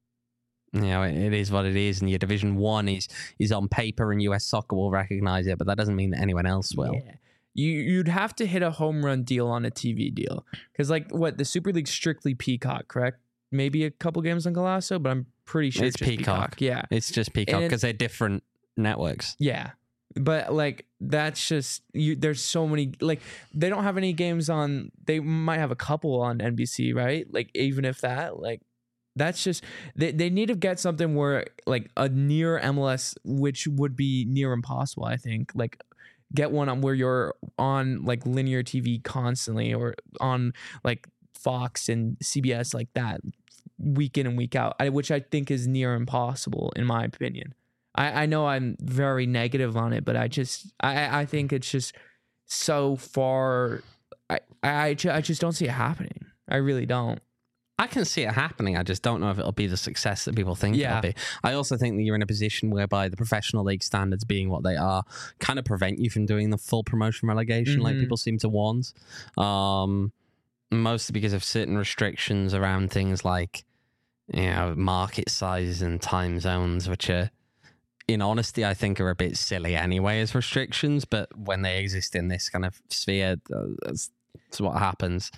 you know, it, it is what it is, and your Division One is is on paper, and U S Soccer will recognize it, but that doesn't mean that anyone else will. Yeah. You you'd have to hit a home run deal on a T V deal, because like what the Super League's strictly Peacock, correct? Maybe a couple games on Golasso, but I'm pretty sure It's it's, just Peacock. Peacock. Yeah, It's just Peacock And it- because they're different networks. yeah. But like that's just you. There's so many like they don't have any games on. They might have a couple on N B C, right? Like even if that, like that's just they they need to get something where like a near M L S, which would be near impossible, I think. Like get one on where you're on like linear T V constantly, or on like Fox and C B S like that week in and week out, I, which I think is near impossible in my opinion. I, I know I'm very negative on it, but I just I, I think it's just so far. I, I, ju- I just don't see it happening. I really don't. I can see it happening. I just don't know if it'll be the success that people think Yeah. it'll be. I also think that you're in a position whereby the professional league standards being what they are kind of prevent you from doing the full promotion relegation like Mhm. people seem to want. Um, mostly because of certain restrictions around things like, you know, market sizes and time zones, which are, in honesty, I think are a bit silly anyway as restrictions, but when they exist in this kind of sphere, uh, that's, that's what happens.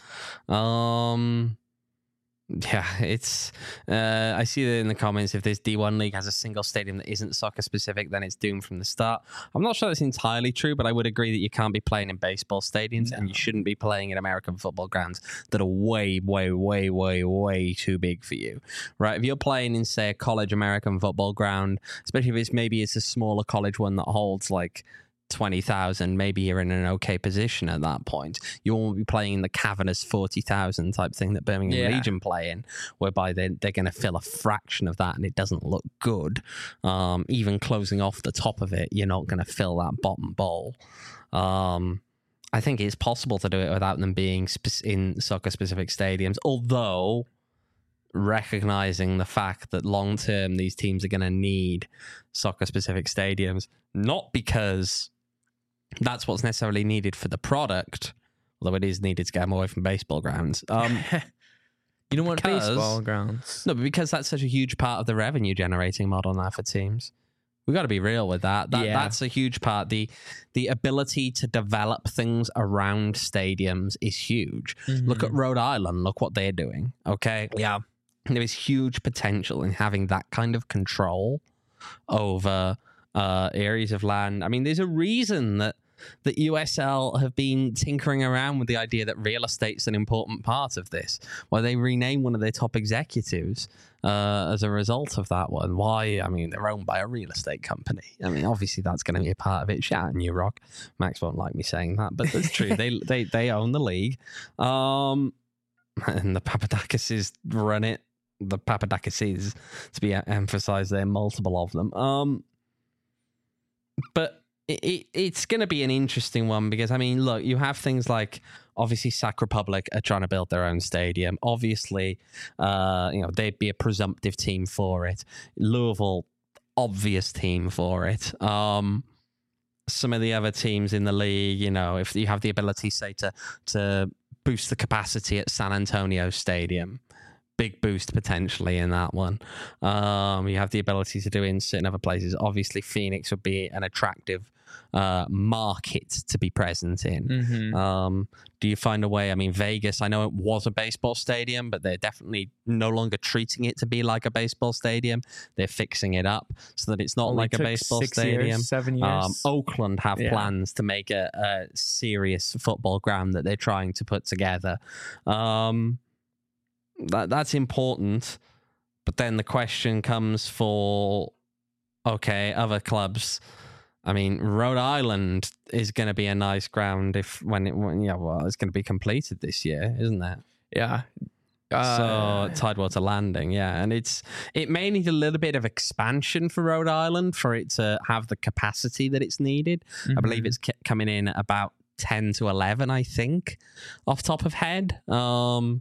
Um... Yeah, it's. Uh, I see that in the comments. If this D one league has a single stadium that isn't soccer specific, then it's doomed from the start. I'm not sure that's entirely true, but I would agree that you can't be playing in baseball stadiums, and you shouldn't be playing in American football grounds that are way, way, way, way, way too big for you. Right? If you're playing in, say, a college American football ground, especially if it's maybe it's a smaller college one that holds like twenty thousand, maybe you're in an okay position at that point. You won't be playing in the cavernous forty thousand type thing that Birmingham Yeah. Legion play in, whereby they're, they're going to fill a fraction of that and it doesn't look good. Um, even closing off the top of it, you're not going to fill that bottom bowl. Um, I think it's possible to do it without them being spe- in soccer-specific stadiums, although recognizing the fact that long-term these teams are going to need soccer-specific stadiums, not because that's what's necessarily needed for the product, although it is needed to get them away from baseball grounds. Um, You don't want because- baseball grounds. no, but because that's such a huge part of the revenue generating model now for teams. We got to be real with that. that Yeah. That's a huge part. The the ability to develop things around stadiums is huge. Look at Rhode Island. Look what they're doing. Okay. Yeah. There is huge potential in having that kind of control over uh, areas of land. I mean, there's a reason that that U S L have been tinkering around with the idea that real estate's an important part of this. Why they renamed one of their top executives uh, as a result of that one. Why? I mean, they're owned by a real estate company. I mean, obviously that's going to be a part of it. Shout out New Rock. Max won't like me saying that, but that's true. they they they own the league, um, and the Papadakis run it. The Papadakis, to be emphasized, there are multiple of them. Um, but it, it, it's going to be an interesting one because, I mean, look, you have things like, obviously, Sac Republic are trying to build their own stadium. Obviously, uh, you know, they'd be a presumptive team for it. Louisville, obvious team for it. Um, some of the other teams in the league, you know, if you have the ability, say, to to boost the capacity at San Antonio Stadium, big boost potentially in that one. Um, you have the ability to do it in certain other places. Obviously, Phoenix would be an attractive uh, market to be present in. Mhm. Um, do you find a way? I mean, Vegas, I know it was a baseball stadium, but they're definitely no longer treating it to be like a baseball stadium. They're fixing it up so that it's not Only like a took baseball six stadium. years, seven years. Um, Oakland have Yeah. plans to make a, a serious football ground that they're trying to put together. Um, that that's important, but then the question comes for, okay, other clubs. I mean, Rhode Island is going to be a nice ground if when it when, yeah well it's going to be completed this year, isn't it? Yeah. Uh, so Tidewater Landing, yeah, and it's it may need a little bit of expansion for Rhode Island for it to have the capacity that it's needed. I believe mhm. it's ki- coming in at about ten to eleven, I think, off top of head. Um,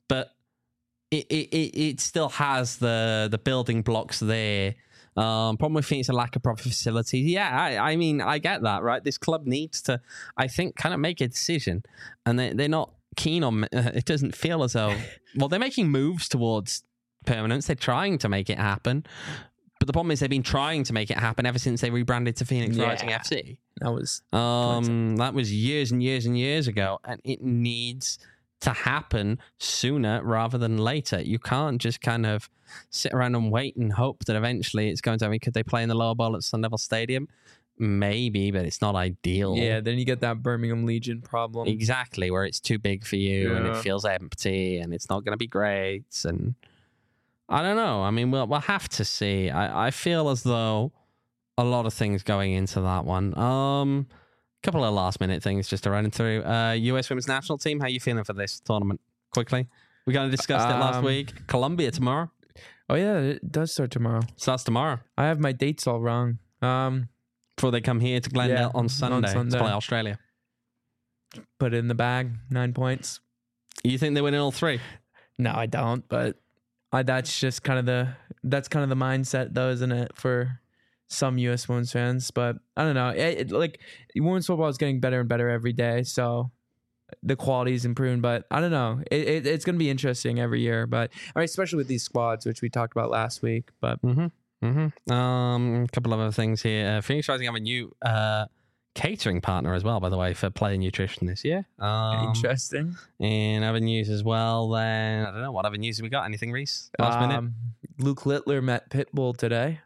but it it, it, it still has the the building blocks there. Um, problem with Phoenix, a lack of proper facilities. Yeah, I, I mean, I get that, right? This club needs to, I think, kind of make a decision, and they they're not keen on. Uh, it doesn't feel as though. Well, they're making moves towards permanence. They're trying to make it happen, but the problem is they've been trying to make it happen ever since they rebranded to Phoenix Yeah. Rising F C. That was Um, that was years and years and years ago, and it needs to happen sooner rather than later. You can't just kind of sit around and wait and hope that eventually it's going to. I mean, could they play in the lower bowl at Sun Devil Stadium? Maybe, but it's not ideal. yeah. Then you get that Birmingham Legion problem. Exactly, where it's too big for you and it Yeah. feels empty and it's not going to be great. And I don't know. I mean, we'll we'll have to see. I, I feel as though a lot of things going into that one. Um, a couple of last minute things just to run through. Uh, U S Women's National Team. How are you feeling for this tournament? Quickly, we kind of discussed it last Um, week. Colombia tomorrow. Oh yeah, it does start tomorrow. Starts tomorrow I have my dates all wrong. Um, before they come here to Glendale Yeah, on on Sunday, Sunday. to play Australia. put it in the bag, nine points. You think they win in all three? No, I don't. But I, that's just kind of the that's kind of the mindset, though, isn't it, for some U S women's fans? But I don't know. It, it, like women's football is getting better and better every day, so the quality is improving. But I don't know. It, it, it's going to be interesting every year. But I mean, especially with these squads, which we talked about last week. But Mm-hmm. Mm-hmm. Um, a couple of other things here. Uh, Phoenix Rising have a new uh, catering partner as well, by the way, for Player Nutrition this year. Um, interesting. in other news as well, then I don't know what other news have we got. Anything, Reese? Last minute. Um, Luke Littler met Pitbull today.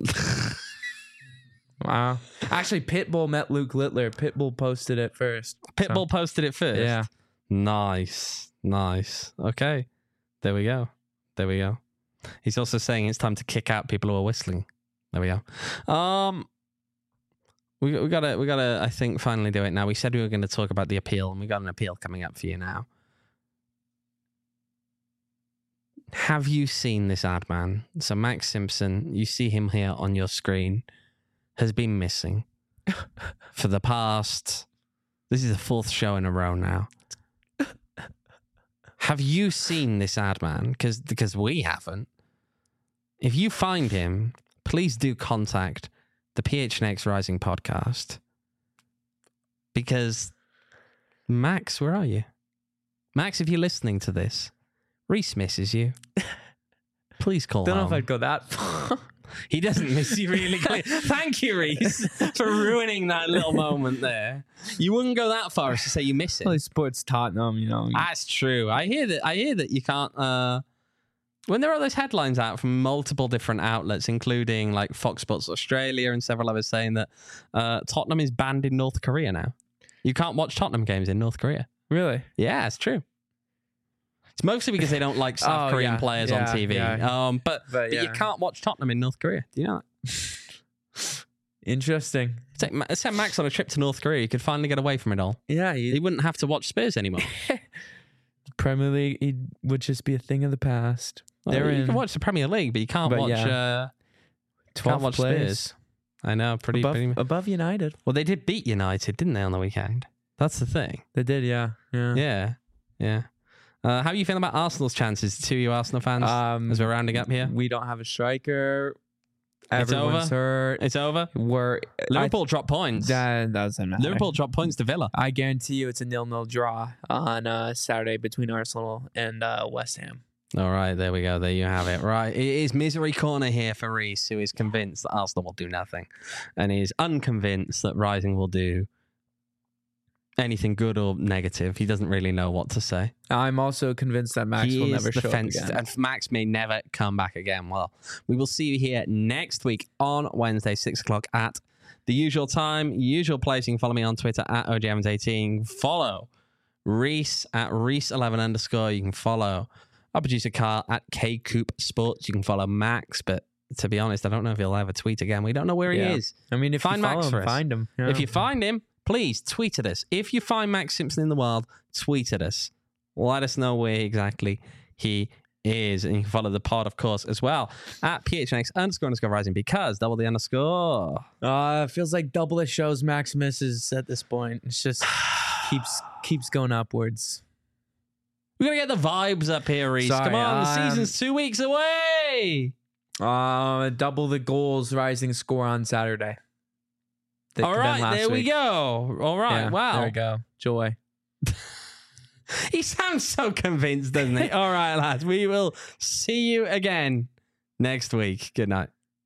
Wow. Actually, Pitbull met Luke Littler. Pitbull posted it first. Pitbull posted it first. Yeah. Nice, nice. Okay, there we go. There we go. He's also saying it's time to kick out people who are whistling. There we go. Um, we we gotta we gotta I think finally do it now. We said we were going to talk about the appeal, and we got an appeal coming up for you now. Have you seen this ad, man? So Max Simpson, you see him here on your screen, has been missing for the past. This is the fourth show in a row now. Have you seen this ad, man? Because because we haven't. If you find him, please do contact the P H N X Rising podcast. Because Max, where are you? Max, if you're listening to this, Reese misses you. Please call Don't know home. if I'd go that far. He doesn't miss you really. Thank you, Reese, for ruining that little moment there. You wouldn't go that far as to say you miss it. Well, he supports Tottenham, you know. That's true. I hear that. I hear that you can't. Uh, when there are those headlines out from multiple different outlets, including like Fox Sports Australia and several others, saying that uh, Tottenham is banned in North Korea now. You can't watch Tottenham games in North Korea. Really? Yeah, it's true. It's mostly because they don't like South Oh, Korean yeah, players yeah, on T V. yeah. Um, but, But, but you yeah. can't watch Tottenham in North Korea. Do you know that? Interesting. Take, Ma- send Max on a trip to North Korea. He could finally get away from it all. Yeah, He he, wouldn't have to watch Spurs anymore. Premier League he would just be a thing of the past. Well, They're you in can watch the Premier League, but you can't But watch. yeah. Uh, twelfth watch place. Spurs. I know, pretty, above, pretty. above United. Well, they did beat United, didn't they, on the weekend? That's the thing. They did, yeah. Yeah. Yeah, yeah. Uh, how are you feeling about Arsenal's chances? The two of you Arsenal fans, Um, as we're rounding up here, We don't have a striker. It's Everyone's over. hurt. it's over. We're Liverpool dropped points. That doesn't matter. Liverpool dropped points to Villa. I guarantee you it's a nil-nil draw on uh, Saturday between Arsenal and uh, West Ham. All right, there we go. There you have it. Right, it is misery corner here for Reese, who is convinced that Arsenal will do nothing, and is unconvinced that Rising will do anything good or negative. He doesn't really know what to say. I'm also convinced that Max he will is never the show fence, up again. and Max may never come back again. Well, we will see you here next week on Wednesday, six o'clock at the usual time, usual place. You can follow me on Twitter at O J Evans eighteen. Follow Reese at Reese eleven underscore. You can follow our producer Carl at K Coop Sports. You can follow Max, but to be honest, I don't know if he'll ever tweet again. We don't know where Yeah. he is. I mean, if Find you follow Max him, for us. find him. Yeah. If you find him, please tweet at us. If you find Max Simpson in the wild, tweet at us. Let us know where exactly he is. And you can follow the pod, of course, as well at P H N X underscore underscore rising, because double the underscore. Uh, it feels like double the shows Max misses at this point. It's just keeps keeps going upwards. We gotta get the vibes up here, Reese. Sorry, Come on, the um, season's two weeks away. Uh, double the goals rising score on Saturday. Th- All than right, last there we week. go. All right, Yeah, wow. There we go. Joy. He sounds so convinced, doesn't he? All right, lads. We will see you again next week. Good night.